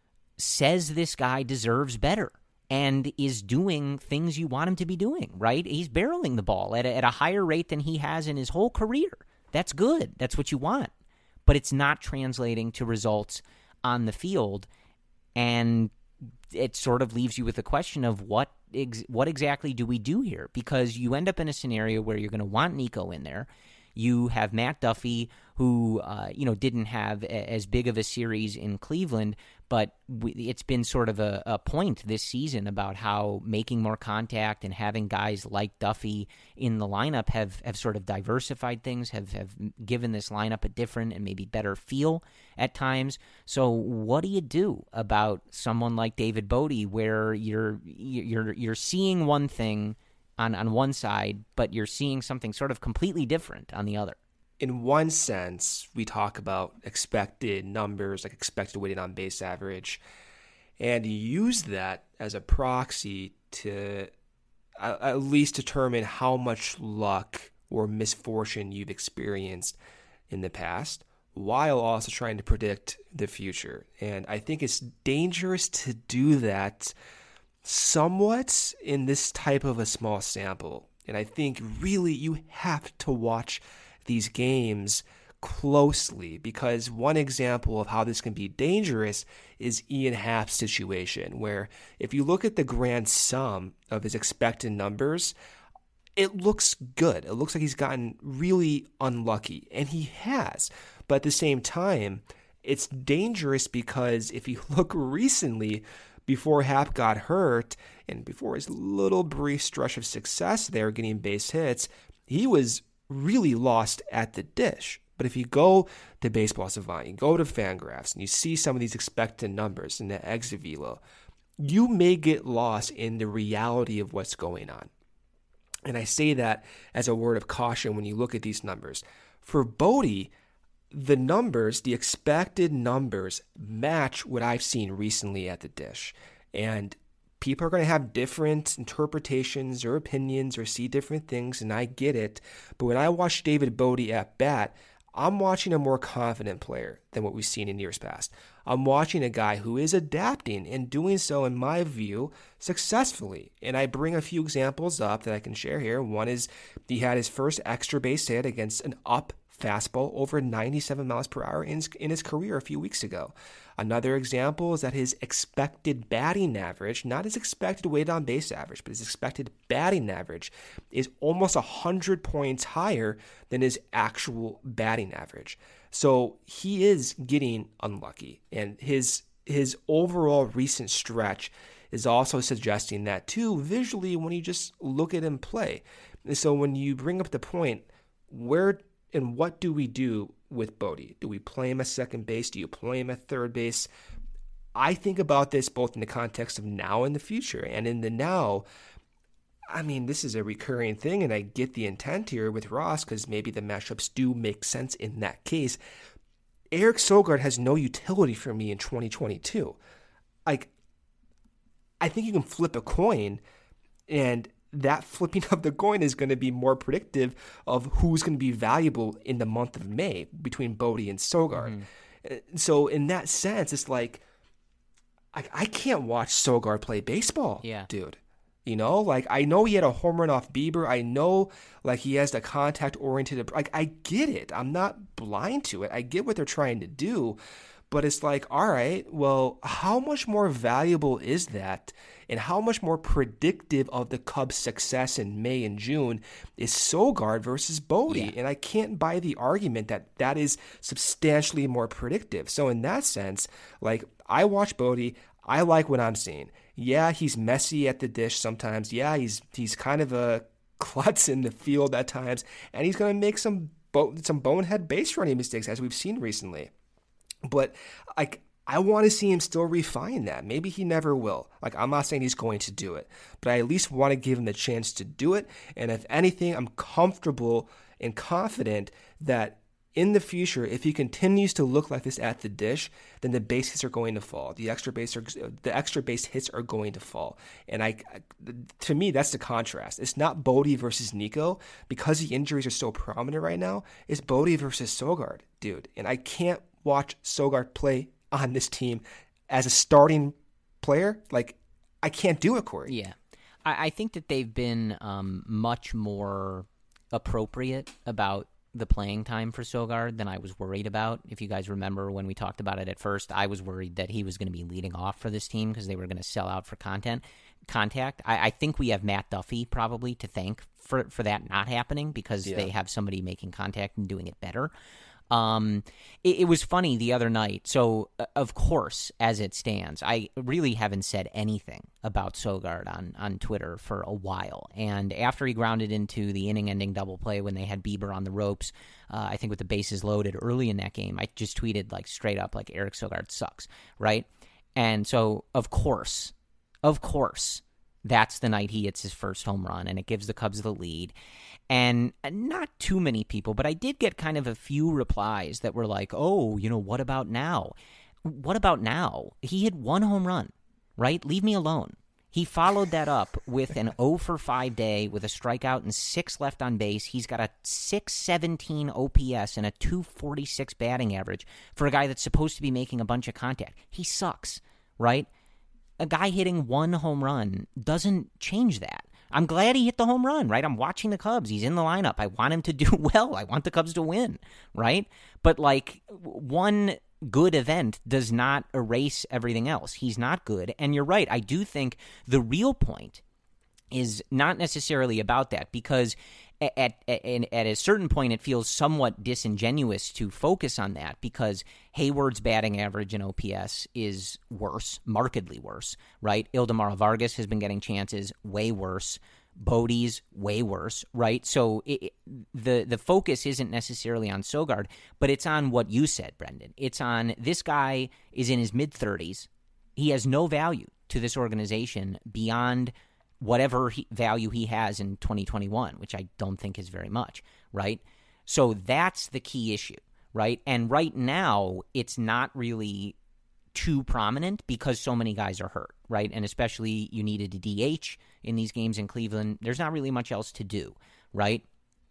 Speaker 2: says this guy deserves better and is doing things you want him to be doing, right? He's barreling the ball at a, at a higher rate than he has in his whole career. That's good. That's what you want. But it's not translating to results on the field, and it sort of leaves you with the question of what ex- what exactly do we do here? Because you end up in a scenario where you're going to want Nico in there. You have Matt Duffy, who uh, you know didn't have a, as big of a series in Cleveland, but we, it's been sort of a, a point this season about how making more contact and having guys like Duffy in the lineup have, have sort of diversified things, have, have given this lineup a different and maybe better feel at times. So what do you do about someone like David Bote, where you're you're you're seeing one thing on, on one side, but you're seeing something sort of completely different on the other?
Speaker 3: In one sense, we talk about expected numbers, like expected weighted on base average, and you use that as a proxy to uh, at least determine how much luck or misfortune you've experienced in the past, while also trying to predict the future. And I think it's dangerous to do that somewhat in this type of a small sample. And I think really you have to watch these games closely, because one example of how this can be dangerous is Ian Happ's situation, where if you look at the grand sum of his expected numbers, it looks good. It looks like he's gotten really unlucky, and he has. But at the same time, it's dangerous because if you look recently, before Happ got hurt and before his little brief stretch of success there getting base hits, he was really lost at the dish. But if you go to Baseball Savant, you go to Fangraphs, and you see some of these expected numbers in the exit velo, you may get lost in the reality of what's going on. And I say that as a word of caution when you look at these numbers. For Bote, the numbers, the expected numbers, match what I've seen recently at the dish. And people are going to have different interpretations or opinions or see different things, and I get it. But when I watch David Bote at bat, I'm watching a more confident player than what we've seen in years past. I'm watching a guy who is adapting and doing so, in my view, successfully. And I bring a few examples up that I can share here. One is he had his first extra base hit against an up fastball over ninety-seven miles per hour in his, in his career a few weeks ago. Another example is that his expected batting average, not his expected weighted on base average, but his expected batting average is almost one hundred points higher than his actual batting average. So he is getting unlucky, and his his overall recent stretch is also suggesting that too visually when you just look at him play. And so when you bring up the point, where and what do we do with Bote? Do we play him at second base? Do you play him at third base? I think about this both in the context of now and the future. And in the now, I mean, this is a recurring thing, and I get the intent here with Ross because maybe the matchups do make sense in that case. Eric Sogard has no utility for me in twenty twenty-two. Like, I think you can flip a coin, and that flipping of the coin is going to be more predictive of who's going to be valuable in the month of May between Bote and Sogard. Mm-hmm. So in that sense, it's like, I, I can't watch Sogard play baseball,
Speaker 2: yeah.
Speaker 3: dude. You know, like, I know he had a home run off Bieber. I know, like, he has the contact-oriented, like, I get it. I'm not blind to it. I get what they're trying to do. But it's like, all right, well, how much more valuable is that? And how much more predictive of the Cubs' success in May and June is Sogard versus Bote?
Speaker 2: Yeah.
Speaker 3: And I can't buy the argument that that is substantially more predictive. So in that sense, like, I watch Bote. I like what I'm seeing. Yeah, he's messy at the dish sometimes. Yeah, he's he's kind of a klutz in the field at times. And he's going to make some bo- some bonehead base running mistakes, as we've seen recently. But like, I want to see him still refine that. Maybe he never will. Like, I'm not saying he's going to do it, but I at least want to give him the chance to do it. And if anything, I'm comfortable and confident that in the future, if he continues to look like this at the dish, then the base hits are going to fall. The extra base are, the extra base hits are going to fall. And I, to me, that's the contrast. It's not Bodie versus Nico because the injuries are so prominent right now. It's Bodie versus Søgaard, dude. And I can't watch Søgaard play on this team as a starting player. Like, I can't do it, Corey.
Speaker 2: Yeah. I, I think that they've been um, much more appropriate about the playing time for Søgaard than I was worried about. If you guys remember when we talked about it at first, I was worried that he was going to be leading off for this team because they were going to sell out for content contact. I, I think we have Matt Duffy probably to thank for, for that not happening because yeah. they have somebody making contact and doing it better. Um, it, it was funny the other night. So, uh, of course, as it stands, I really haven't said anything about Søgaard on, on Twitter for a while. And after he grounded into the inning-ending double play when they had Bieber on the ropes, uh, I think with the bases loaded early in that game, I just tweeted like straight up like Eric Søgaard sucks, right? And so, of course, of course, that's the night he hits his first home run, and it gives the Cubs the lead. And not too many people, but I did get kind of a few replies that were like, oh, you know, what about now? What about now? He hit one home run, right? Leave me alone. He followed that up with an oh for five day with a strikeout and six left on base. He's got a six seventeen O P S and a two forty-six batting average for a guy that's supposed to be making a bunch of contact. He sucks, right? A guy hitting one home run doesn't change that. I'm glad he hit the home run, right? I'm watching the Cubs. He's in the lineup. I want him to do well. I want the Cubs to win, right? But, like, one good event does not erase everything else. He's not good. And you're right. I do think the real point is not necessarily about that because at, at, at a certain point it feels somewhat disingenuous to focus on that because Hayward's batting average in O P S is worse, markedly worse, right? Ildemaro Vargas has been getting chances way worse. Bodie's way worse, right? So it, the the focus isn't necessarily on Søgaard, but it's on what you said, Brendan. It's on this guy is in his mid-thirties. He has no value to this organization beyond whatever he, value he has in twenty twenty-one, which I don't think is very much, right? So that's the key issue, right? And right now, it's not really too prominent because so many guys are hurt, right? And especially you needed a D H in these games in Cleveland. There's not really much else to do, right?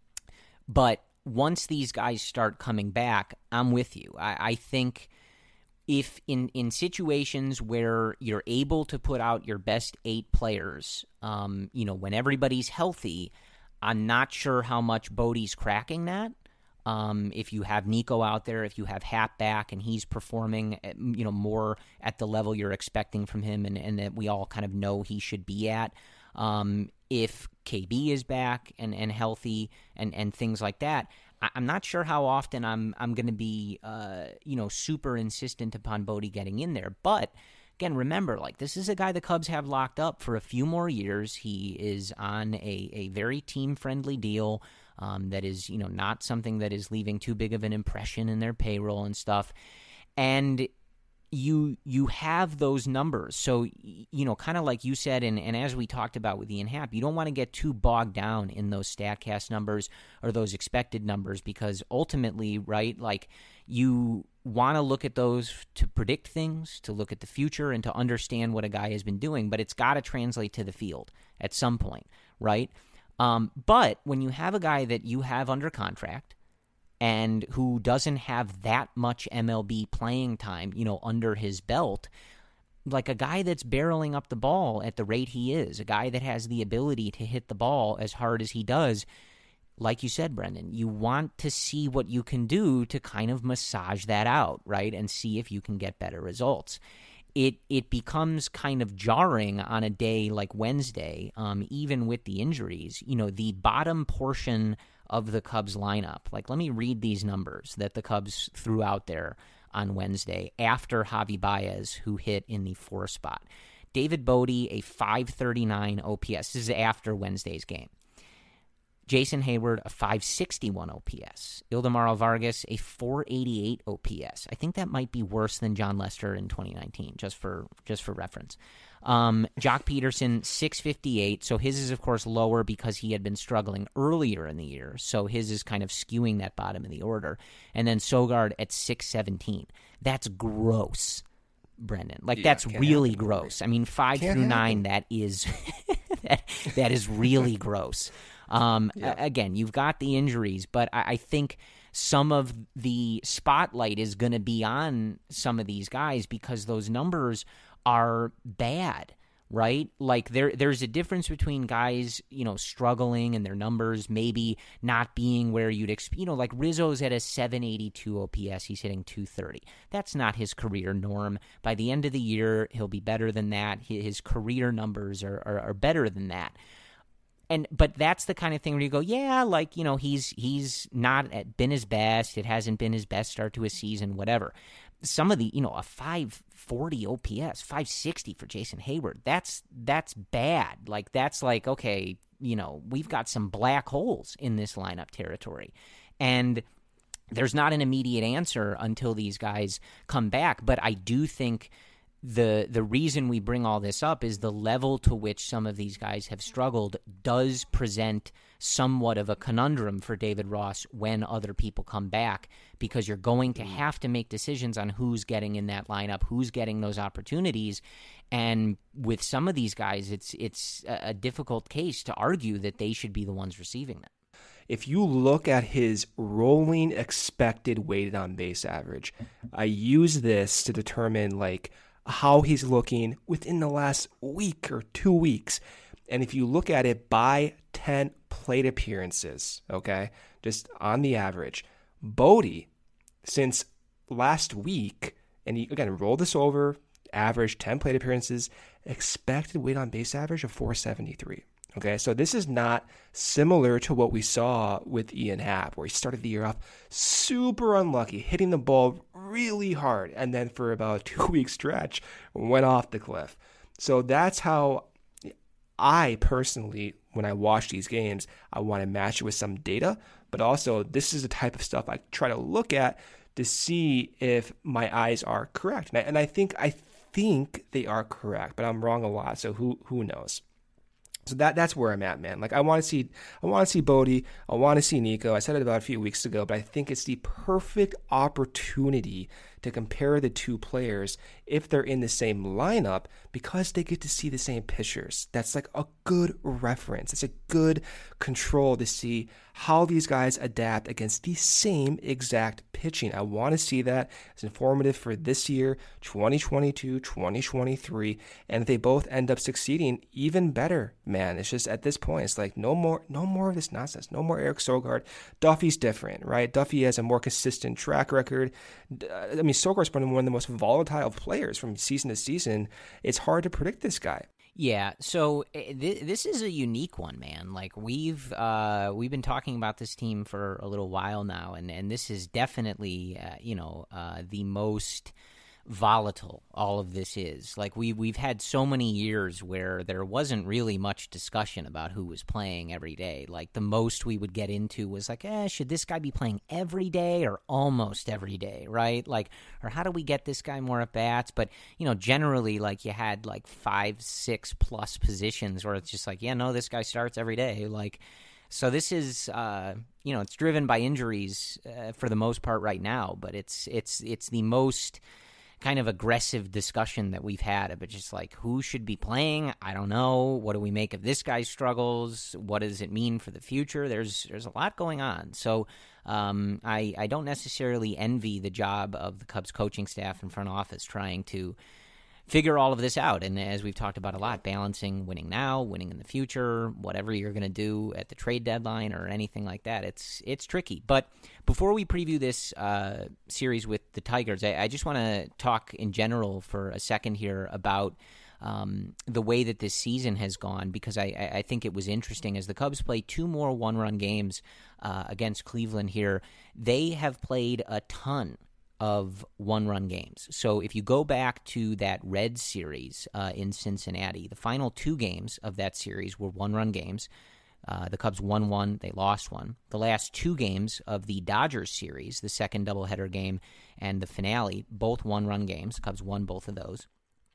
Speaker 2: But once these guys start coming back, I'm with you. I, I think if in, in situations where you're able to put out your best eight players, um, you know, when everybody's healthy, I'm not sure how much Bodie's cracking that. Um, if you have Nico out there, if you have Happ back and he's performing, at, you know, more at the level you're expecting from him and, and that we all kind of know he should be at. Um, if K B is back and, and healthy and, and things like that, I, I'm not sure how often I'm I'm going to be, uh, you know, super insistent upon Bodie getting in there. But again, remember, like this is a guy the Cubs have locked up for a few more years. He is on a, a very team-friendly deal. Um, that is, you know, not something that is leaving too big of an impression in their payroll and stuff. And you you have those numbers. So, you know, kind of like you said, and, and as we talked about with Ian Happ, you don't want to get too bogged down in those StatCast numbers or those expected numbers because ultimately, right, like you want to look at those to predict things, to look at the future, and to understand what a guy has been doing, but it's got to translate to the field at some point, right? Um, but when you have a guy that you have under contract and who doesn't have that much M L B playing time, you know, under his belt, like a guy that's barreling up the ball at the rate he is, a guy that has the ability to hit the ball as hard as he does, like you said, Brendan, you want to see what you can do to kind of massage that out, right, and see if you can get better results. It it becomes kind of jarring on a day like Wednesday, um, even with the injuries. You know, the bottom portion of the Cubs lineup. Like, let me read these numbers that the Cubs threw out there on Wednesday after Javi Baez, who hit in the four spot. David Bodie, a five thirty-nine O P S. This is after Wednesday's game. Jason Hayward, a five sixty-one O P S. Ildemaro Vargas, a four eighty-eight O P S. I think that might be worse than John Lester in twenty nineteen, just for just for reference. Um, Jock Peterson, six fifty-eight. So his is, of course, lower because he had been struggling earlier in the year. So his is kind of skewing that bottom of the order. And then Sogard at six seventeen. That's gross, Brendan. Like,
Speaker 3: Yeah,
Speaker 2: that's
Speaker 3: can't
Speaker 2: really
Speaker 3: happen.
Speaker 2: gross. I mean, five
Speaker 3: Can't
Speaker 2: through
Speaker 3: happen.
Speaker 2: nine, that is that, that is really gross. Um,
Speaker 3: Yeah.
Speaker 2: a- Again, you've got the injuries, but I, I think some of the spotlight is going to be on some of these guys because those numbers are bad, right? Like there, there's a difference between guys, you know, struggling and their numbers maybe not being where you'd expect. You know, like Rizzo's at a seven eighty-two O P S. He's hitting two thirty. That's not his career norm. By the end of the year, he'll be better than that. His career numbers are, are, are better than that. And but that's the kind of thing where you go, yeah, like, you know, he's he's not at, been his best. It hasn't been his best start to a season, whatever. Some of the, you know, a five forty O P S, five sixty for Jason Hayward, that's that's bad. Like, that's like, okay, you know, we've got some black holes in this lineup territory. And there's not an immediate answer until these guys come back. But I do think the the reason we bring all this up is the level to which some of these guys have struggled does present somewhat of a conundrum for David Ross when other people come back, because you're going to have to make decisions on who's getting in that lineup, who's getting those opportunities. And with some of these guys, it's it's a a difficult case to argue that they should be the ones receiving them.
Speaker 3: If you look at his rolling expected weighted on base average, I use this to determine like how he's looking within the last week or two weeks. And if you look at it by ten plate appearances, okay, just on the average, Bodie, since last week, and you, again, roll this over, average ten plate appearances, expected weight on base average of four seventy-three. Okay, so this is not similar to what we saw with Ian Happ, where he started the year off super unlucky, hitting the ball really hard, and then for about a two-week stretch, went off the cliff. So that's how I personally, when I watch these games, I want to match it with some data, but also this is the type of stuff I try to look at to see if my eyes are correct. And I, and I think I think they are correct, but I'm wrong a lot, so who who knows? So that that's where I'm at, man. Like, I want to see, I want to see Bodie. I want to see Nico. I said it about a few weeks ago, but I think it's the perfect opportunity to compare the two players if they're in the same lineup, because they get to see the same pitchers. That's like a good reference. It's a good control to see how these guys adapt against the same exact pitching. I want to see that. It's informative for this year, twenty twenty-two, twenty twenty-three, and if they both end up succeeding, even better, man. It's just at this point, it's like no more, no more of this nonsense. No more Eric Sogard. Duffy's different, right? Duffy has a more consistent track record. I mean, Sogard's been one of the most volatile players from season to season. It's hard to predict this guy.
Speaker 2: Yeah, so th- this is a unique one, man. Like, we've uh, we've been talking about this team for a little while now, and, and this is definitely, uh, you know, uh, the most volatile all of this is. Like, we, we've had so many years where there wasn't really much discussion about who was playing every day. Like, the most we would get into was like, eh, should this guy be playing every day or almost every day, right? Like, or how do we get this guy more at-bats? But, you know, generally, like, you had, like, five, six plus positions where it's just like, yeah, no, this guy starts every day. Like, so this is, uh, you know, it's driven by injuries uh, for the most part right now, but it's it's it's the most kind of aggressive discussion that we've had, but just like, who should be playing? I don't know. What do we make of this guy's struggles? What does it mean for the future? There's there's a lot going on. So um, I, I don't necessarily envy the job of the Cubs coaching staff and front office trying to figure all of this out. And as we've talked about a lot, balancing winning now, winning in the future, whatever you're going to do at the trade deadline or anything like that, it's it's tricky. But before we preview this uh, series with the Tigers, I, I just want to talk in general for a second here about um, the way that this season has gone, because I, I think it was interesting. As the Cubs play two more one-run games uh, against Cleveland here, they have played a ton of one-run games. So if you go back to that Reds series uh, in Cincinnati, the final two games of that series were one-run games. Uh, the Cubs won one, they lost one. The last two games of the Dodgers series, the second doubleheader game and the finale, both one-run games. The Cubs won both of those.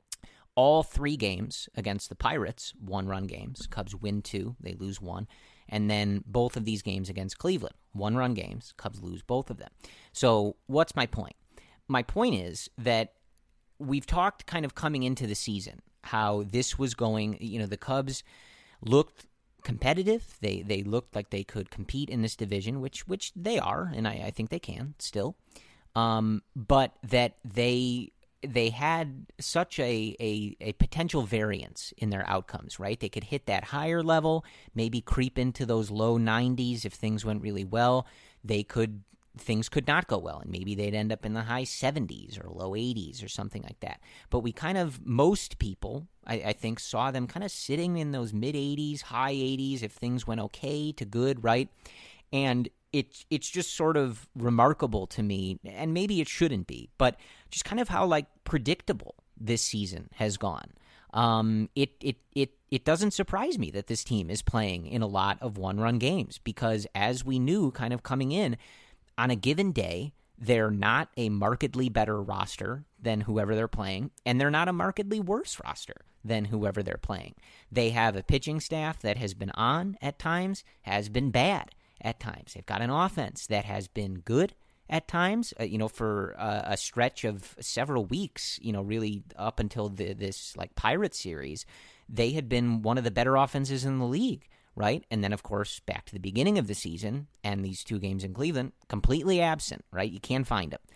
Speaker 2: All three games against the Pirates, one-run games. Cubs win two, they lose one. And then both of these games against Cleveland, one-run games. Cubs lose both of them. So what's my point? My point is that we've talked kind of coming into the season how this was going, you know, the Cubs looked competitive. They they looked like they could compete in this division, which which they are, and I, I think they can still. Um, but that they they had such a, a a potential variance in their outcomes, right? They could hit that higher level, maybe creep into those low nineties if things went really well. They could things could not go well, and maybe they'd end up in the high seventies or low eighties or something like that. But we kind of, most people, I, I think, saw them kind of sitting in those mid-eighties, high eighties if things went okay to good, right? And it, it's just sort of remarkable to me, and maybe it shouldn't be, but just kind of how, like, predictable this season has gone. Um, it, it, it, it doesn't surprise me that this team is playing in a lot of one-run games because, as we knew kind of coming in, on a given day, they're not a markedly better roster than whoever they're playing, and they're not a markedly worse roster than whoever they're playing. They have a pitching staff that has been on at times, has been bad at times. They've got an offense that has been good at times, uh, you know, for uh, a stretch of several weeks, you know, really up until the, this, like, Pirates series, they had been one of the better offenses in the league. Right? And then, of course, back to the beginning of the season and these two games in Cleveland, completely absent, right? You can't find them.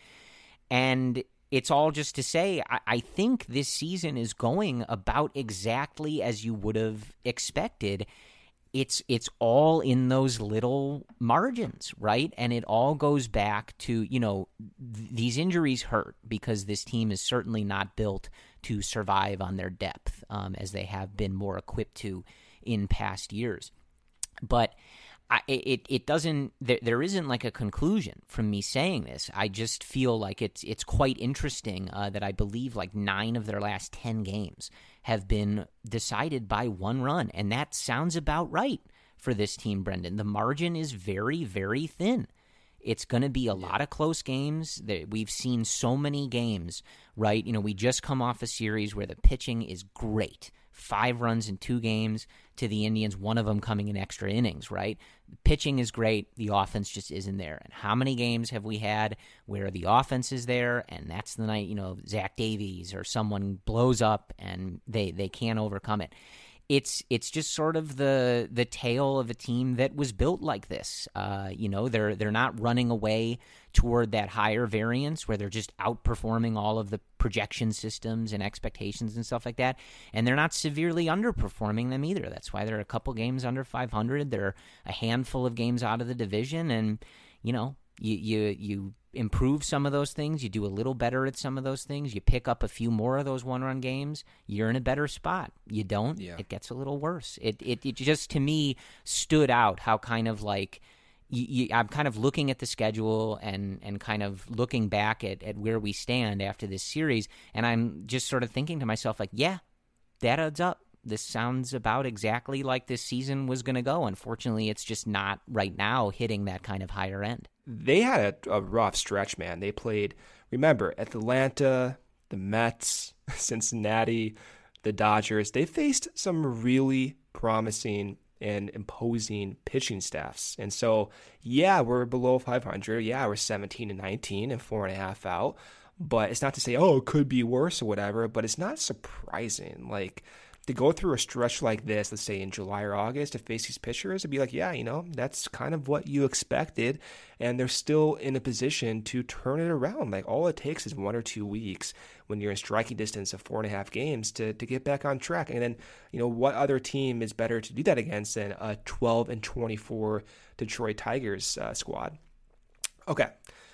Speaker 2: And it's all just to say, I, I think this season is going about exactly as you would have expected. It's it's all in those little margins, right? And it all goes back to, you know, th- these injuries hurt because this team is certainly not built to survive on their depth um, as they have been more equipped to in past years. But I, it it doesn't there, there isn't like a conclusion from me saying this. I just feel like it's it's quite interesting uh, that I believe like nine of their last ten games have been decided by one run, and that sounds about right for this team, Brendan. The margin is very, very thin. It's going to be a lot of close games. We've seen so many games, right? You know, we just come off a series where the pitching is great. Five runs in two games to the Indians, one of them coming in extra innings, right? The pitching is great. The offense just isn't there. And how many games have we had where the offense is there and that's the night, you know, Zach Davies or someone blows up and they, they can't overcome it? It's it's just sort of the the tale of a team that was built like this. Uh, you know, they're they're not running away toward that higher variance where they're just outperforming all of the projection systems and expectations and stuff like that. And they're not severely underperforming them either. That's why they're a couple games under five hundred. They're a handful of games out of the division. And, you know, you you you improve some of those things. You do a little better at some of those things. You pick up a few more of those one-run games. You're in a better spot. You don't, yeah. It gets a little worse. It, it it just, to me, stood out how kind of like you, you, I'm kind of looking at the schedule and, and kind of looking back at, at where we stand after this series, and I'm just sort of thinking to myself, like, yeah, that adds up. This sounds about exactly like this season was going to go. Unfortunately, it's just not right now hitting that kind of higher end.
Speaker 3: They had a, a rough stretch, man. They played, remember, Atlanta, the Mets, Cincinnati, the Dodgers. They faced some really promising and imposing pitching staffs. And so, yeah, we're below five hundred. Yeah, we're seventeen and nineteen and four and a half out. But it's not to say, oh, it could be worse or whatever, but it's not surprising. Like, to go through a stretch like this, let's say in July or August, to face these pitchers, it'd be like, yeah, you know, that's kind of what you expected. And they're still in a position to turn it around. Like, all it takes is one or two weeks when you're in striking distance of four and a half games to, to get back on track. And then, you know, what other team is better to do that against than a twelve and twenty-four Detroit Tigers uh, squad? Okay.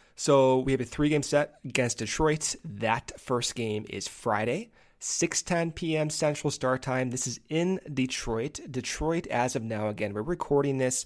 Speaker 3: So we have a three-game set against Detroit. That first game is Friday, six ten p.m. Central Start Time. This is in Detroit. Detroit, as of now, again, we're recording this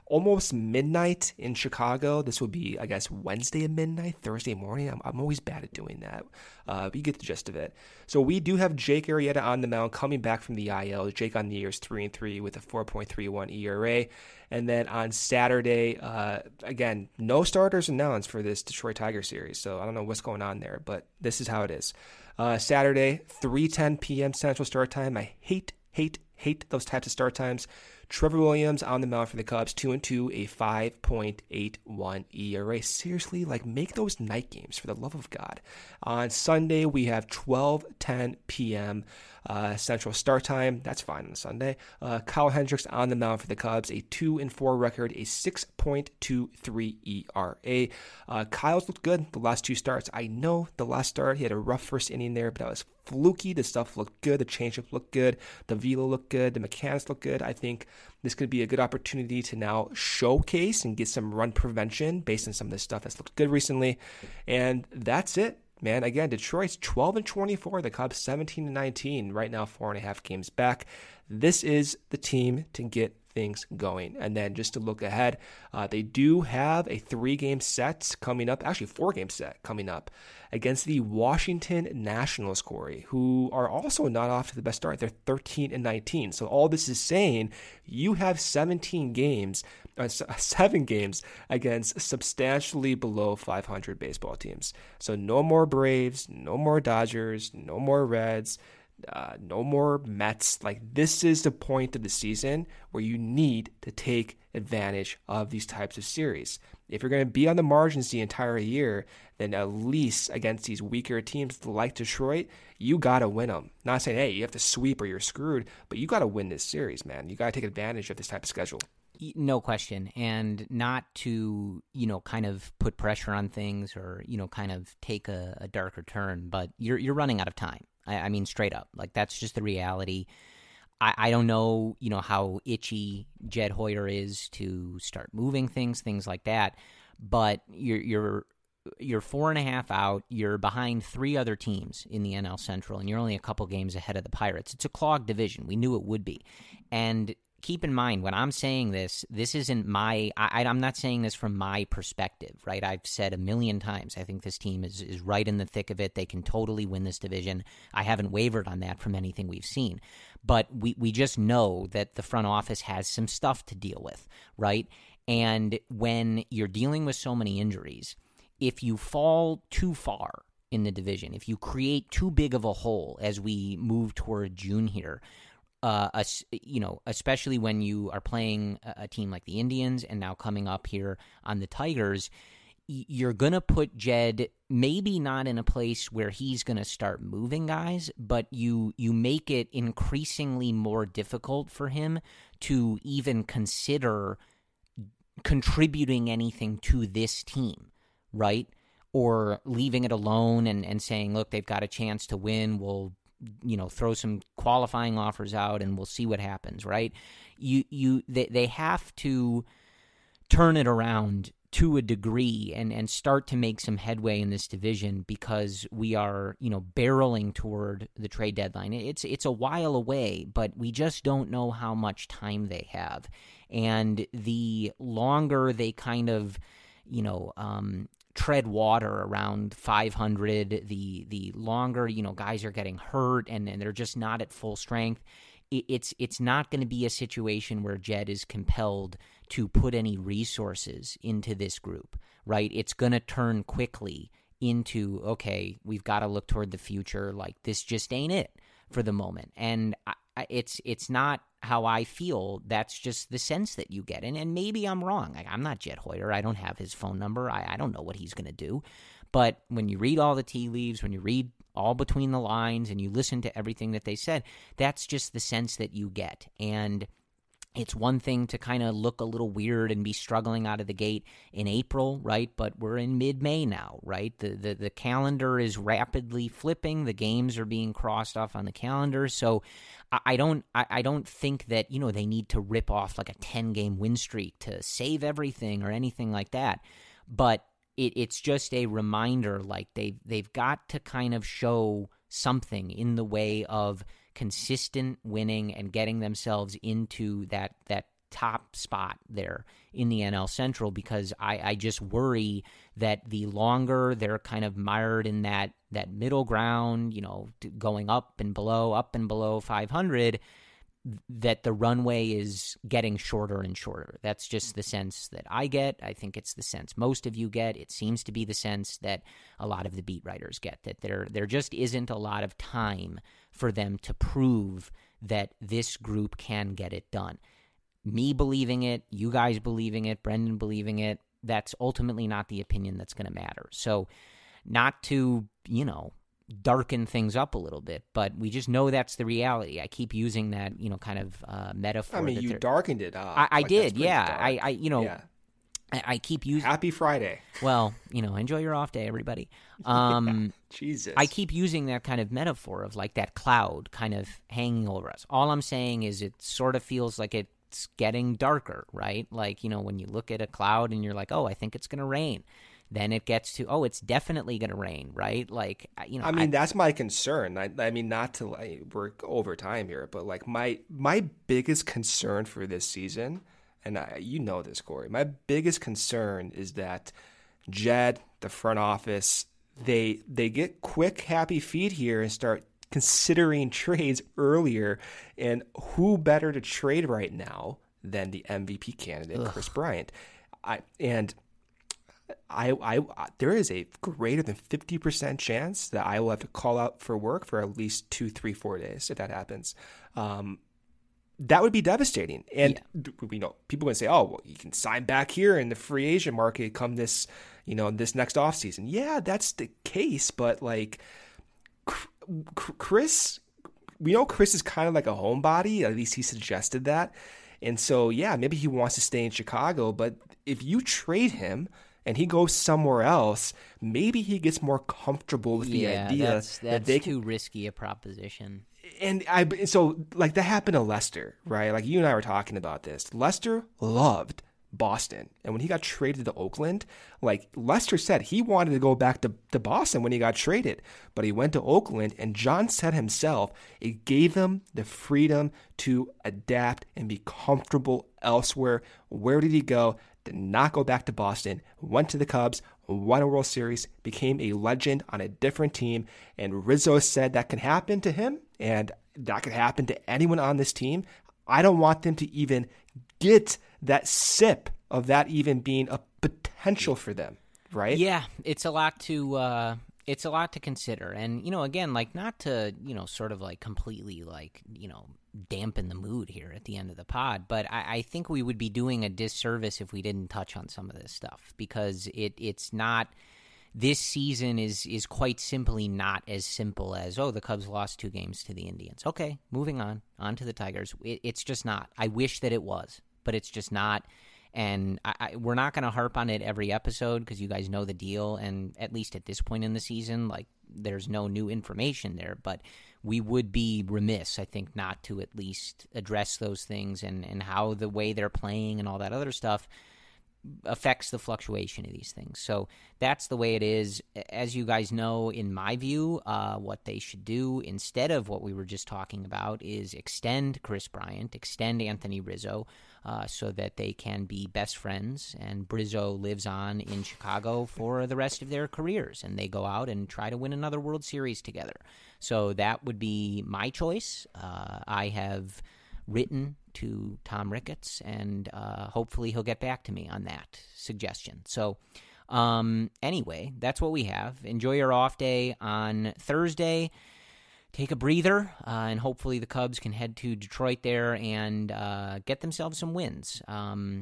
Speaker 3: almost midnight in Chicago. This would be, I guess, Wednesday at midnight, Thursday morning. I'm, I'm always bad at doing that, uh, but you get the gist of it. So we do have Jake Arrieta on the mound coming back from the I L. Jake on the year is three and three with a four point three one E R A. And then on Saturday, uh, again, no starters announced for this Detroit Tigers series. So I don't know what's going on there, but this is how it is. Uh, Saturday, three ten p.m. Central start time. I hate, hate, hate those types of start times. Trevor Williams on the mound for the Cubs, two and two, a five point eight one E R A. Seriously, like, make those night games for the love of God. On Sunday, we have twelve ten p.m. Uh, Central start time. That's fine on Sunday. Uh, Kyle Hendricks on the mound for the Cubs, a two and four record, a six point two three E R A. Uh, Kyle's looked good the last two starts. I know the last start he had a rough first inning there, but that was fluky. The stuff looked good. The changeup looked good. The velo looked good. The mechanics looked good. I think this could be a good opportunity to now showcase and get some run prevention based on some of this stuff that's looked good recently. And that's it. Man, again, Detroit's twelve and twenty-four, the Cubs seventeen and nineteen, right now four and a half games back. This is the team to get things going. And then just to look ahead, uh, they do have a three-game set coming up, actually four-game set coming up against the Washington Nationals, Corey, who are also not off to the best start. They're thirteen and nineteen. So all this is saying, you have seventeen games, uh, seven games against substantially below five hundred baseball teams. So no more Braves, no more Dodgers, no more Reds, Uh, no more Mets. Like, this is the point of the season where you need to take advantage of these types of series. If you're going to be on the margins the entire year, then at least against these weaker teams like Detroit, you got to win them. Not saying, hey, you have to sweep or you're screwed, but you got to win this series, man. You got to take advantage of this type of schedule.
Speaker 2: No question. And not to, you know, kind of put pressure on things or, you know, kind of take a, a darker turn, but you're you're running out of time. I, I mean, straight up. Like, that's just the reality. I, I don't know, you know, how itchy Jed Hoyer is to start moving things, things like that, but you're you're you're four and a half out. You're behind three other teams in the N L Central, and you're only a couple games ahead of the Pirates. It's a clogged division. We knew it would be. And keep in mind, when I'm saying this, this isn't my, I, I'm not saying this from my perspective, right? I've said a million times, I think this team is, is right in the thick of it. They can totally win this division. I haven't wavered on that from anything we've seen. But we, we just know that the front office has some stuff to deal with, right? And when you're dealing with so many injuries, if you fall too far in the division, if you create too big of a hole as we move toward June here, Uh, a, you know, especially when you are playing a, a team like the Indians and now coming up here on the Tigers, y- you're going to put Jed maybe not in a place where he's going to start moving guys, but you you make it increasingly more difficult for him to even consider contributing anything to this team, right? Or leaving it alone and, and saying, look, they've got a chance to win, we'll you know, throw some qualifying offers out and we'll see what happens, right? You, you, they, they have to turn it around to a degree and, and start to make some headway in this division because we are, you know, barreling toward the trade deadline. It's, it's a while away, but we just don't know how much time they have. And the longer they kind of, you know, um, tread water around five hundred, the the longer, you know, guys are getting hurt and, and they're just not at full strength, it, it's it's not going to be a situation where Jed is compelled to put any resources into this group, right? It's going to turn quickly into, okay, we've got to look toward the future. Like, this just ain't it for the moment. And I, it's it's not how I feel. That's just the sense that you get. And, and maybe I'm wrong. Like, I'm not Jed Hoyer. I don't have his phone number. I, I don't know what he's going to do. But when you read all the tea leaves, when you read all between the lines and you listen to everything that they said, that's just the sense that you get. And it's one thing to kind of look a little weird and be struggling out of the gate in April, right? But we're in mid-May now, right? The, the the calendar is rapidly flipping. The games are being crossed off on the calendar. So I, I don't I, I don't think that, you know, they need to rip off like a ten-game win streak to save everything or anything like that. But it, it's just a reminder, like they they've got to kind of show something in the way of consistent winning and getting themselves into that that top spot there in the N L Central, because I, I just worry that the longer they're kind of mired in that, that middle ground, you know, going up and below, up and below five hundred, that the runway is getting shorter and shorter. That's just the sense that I get. I think it's the sense most of you get. It seems to be the sense that a lot of the beat writers get, that there there just isn't a lot of time for them to prove that this group can get it done. Me believing it, you guys believing it, Brendan believing it, that's ultimately not the opinion that's going to matter. So not to, you know, darken things up a little bit, but we just know that's the reality. I keep using that, you know, kind of uh, metaphor.
Speaker 3: I mean,
Speaker 2: that
Speaker 3: you darkened it up.
Speaker 2: I, I
Speaker 3: like,
Speaker 2: did, yeah. I, I, you know,
Speaker 3: yeah.
Speaker 2: I, I keep using.
Speaker 3: Happy Friday.
Speaker 2: Well, you know, enjoy your off day, everybody. Um,
Speaker 3: yeah, Jesus.
Speaker 2: I keep using that kind of metaphor of like that cloud kind of hanging over us. All I'm saying is it sort of feels like it's getting darker, right? Like, you know, when you look at a cloud and you're like, oh, I think it's going to rain. Then it gets to, oh, it's definitely going to rain, right? Like, you know.
Speaker 3: I mean,
Speaker 2: I,
Speaker 3: that's my concern. I, I mean, not to like, work over time here, but like my my biggest concern for this season, and I, you know this, Corey, my biggest concern is that Jed, the front office, they they get quick, happy feet here and start considering trades earlier. And who better to trade right now than the M V P candidate, Ugh. Kris Bryant? I and. I, I, there is a greater than fifty percent chance that I will have to call out for work for at least two, three, four days if that happens. Um, that would be devastating. And yeah. we know people would say, "Oh, well, you can sign back here in the free agent market come this, you know, this next offseason." Yeah, that's the case. But like, Kris, we know Kris is kind of like a homebody. At least he suggested that. And so, yeah, maybe he wants to stay in Chicago. But if you trade him and he goes somewhere else, maybe he gets more comfortable with the
Speaker 2: yeah,
Speaker 3: idea
Speaker 2: that's, that's
Speaker 3: that they
Speaker 2: too
Speaker 3: can,
Speaker 2: risky a proposition.
Speaker 3: And I so like that happened to Lester, right? Like you and I were talking about this. Lester loved Boston, and when he got traded to Oakland, like Lester said, he wanted to go back to, to Boston when he got traded, but he went to Oakland, and John said himself, it gave him the freedom to adapt and be comfortable elsewhere. Where did he go? Did not go back to Boston, went to the Cubs, won a World Series, became a legend on a different team, and Rizzo said that can happen to him, and that could happen to anyone on this team. I don't want them to even get that sip of that even being a potential for them, right?
Speaker 2: Yeah, it's a lot to uh, it's a lot to consider, and you know, again, like not to you know, sort of like completely like you know. dampen the mood here at the end of the pod, but I, I think we would be doing a disservice if we didn't touch on some of this stuff, because it it's not this season is is quite simply not as simple as, oh, the Cubs lost two games to the Indians. Okay, moving on on to the Tigers. It, it's just not. I wish that it was, but it's just not. And I, I, we're not going to harp on it every episode because you guys know the deal. And at least at this point in the season, like there's no new information there. But we would be remiss, I think, not to at least address those things and, and how the way they're playing and all that other stuff affects the fluctuation of these things. So that's the way it is. As you guys know, in my view, uh, what they should do instead of what we were just talking about is extend Kris Bryant, extend Anthony Rizzo, uh, so that they can be best friends, and Rizzo lives on in Chicago for the rest of their careers, and they go out and try to win another World Series together. So that would be my choice. Uh, I have written to Tom Ricketts, and uh, hopefully he'll get back to me on that suggestion. So um, anyway, that's what we have. Enjoy your off day on Thursday. Take a breather, uh, and hopefully the Cubs can head to Detroit there and uh, get themselves some wins. Um,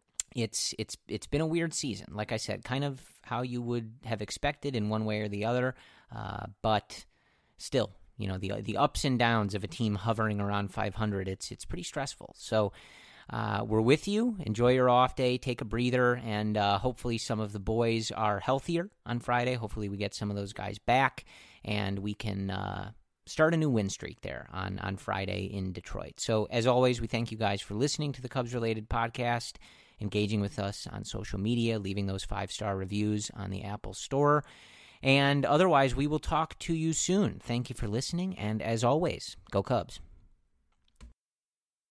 Speaker 2: it's it's it's been a weird season, like I said, kind of how you would have expected in one way or the other, uh, but still, you know, the the ups and downs of a team hovering around five hundred, it's it's pretty stressful. So uh, we're with you. Enjoy your off day. Take a breather, and uh, hopefully some of the boys are healthier on Friday. Hopefully we get some of those guys back, and we can uh, start a new win streak there on, on Friday in Detroit. So as always, we thank you guys for listening to the Cubs-related podcast, engaging with us on social media, leaving those five-star reviews on the Apple Store. And otherwise, we will talk to you soon. Thank you for listening, and as always, go Cubs.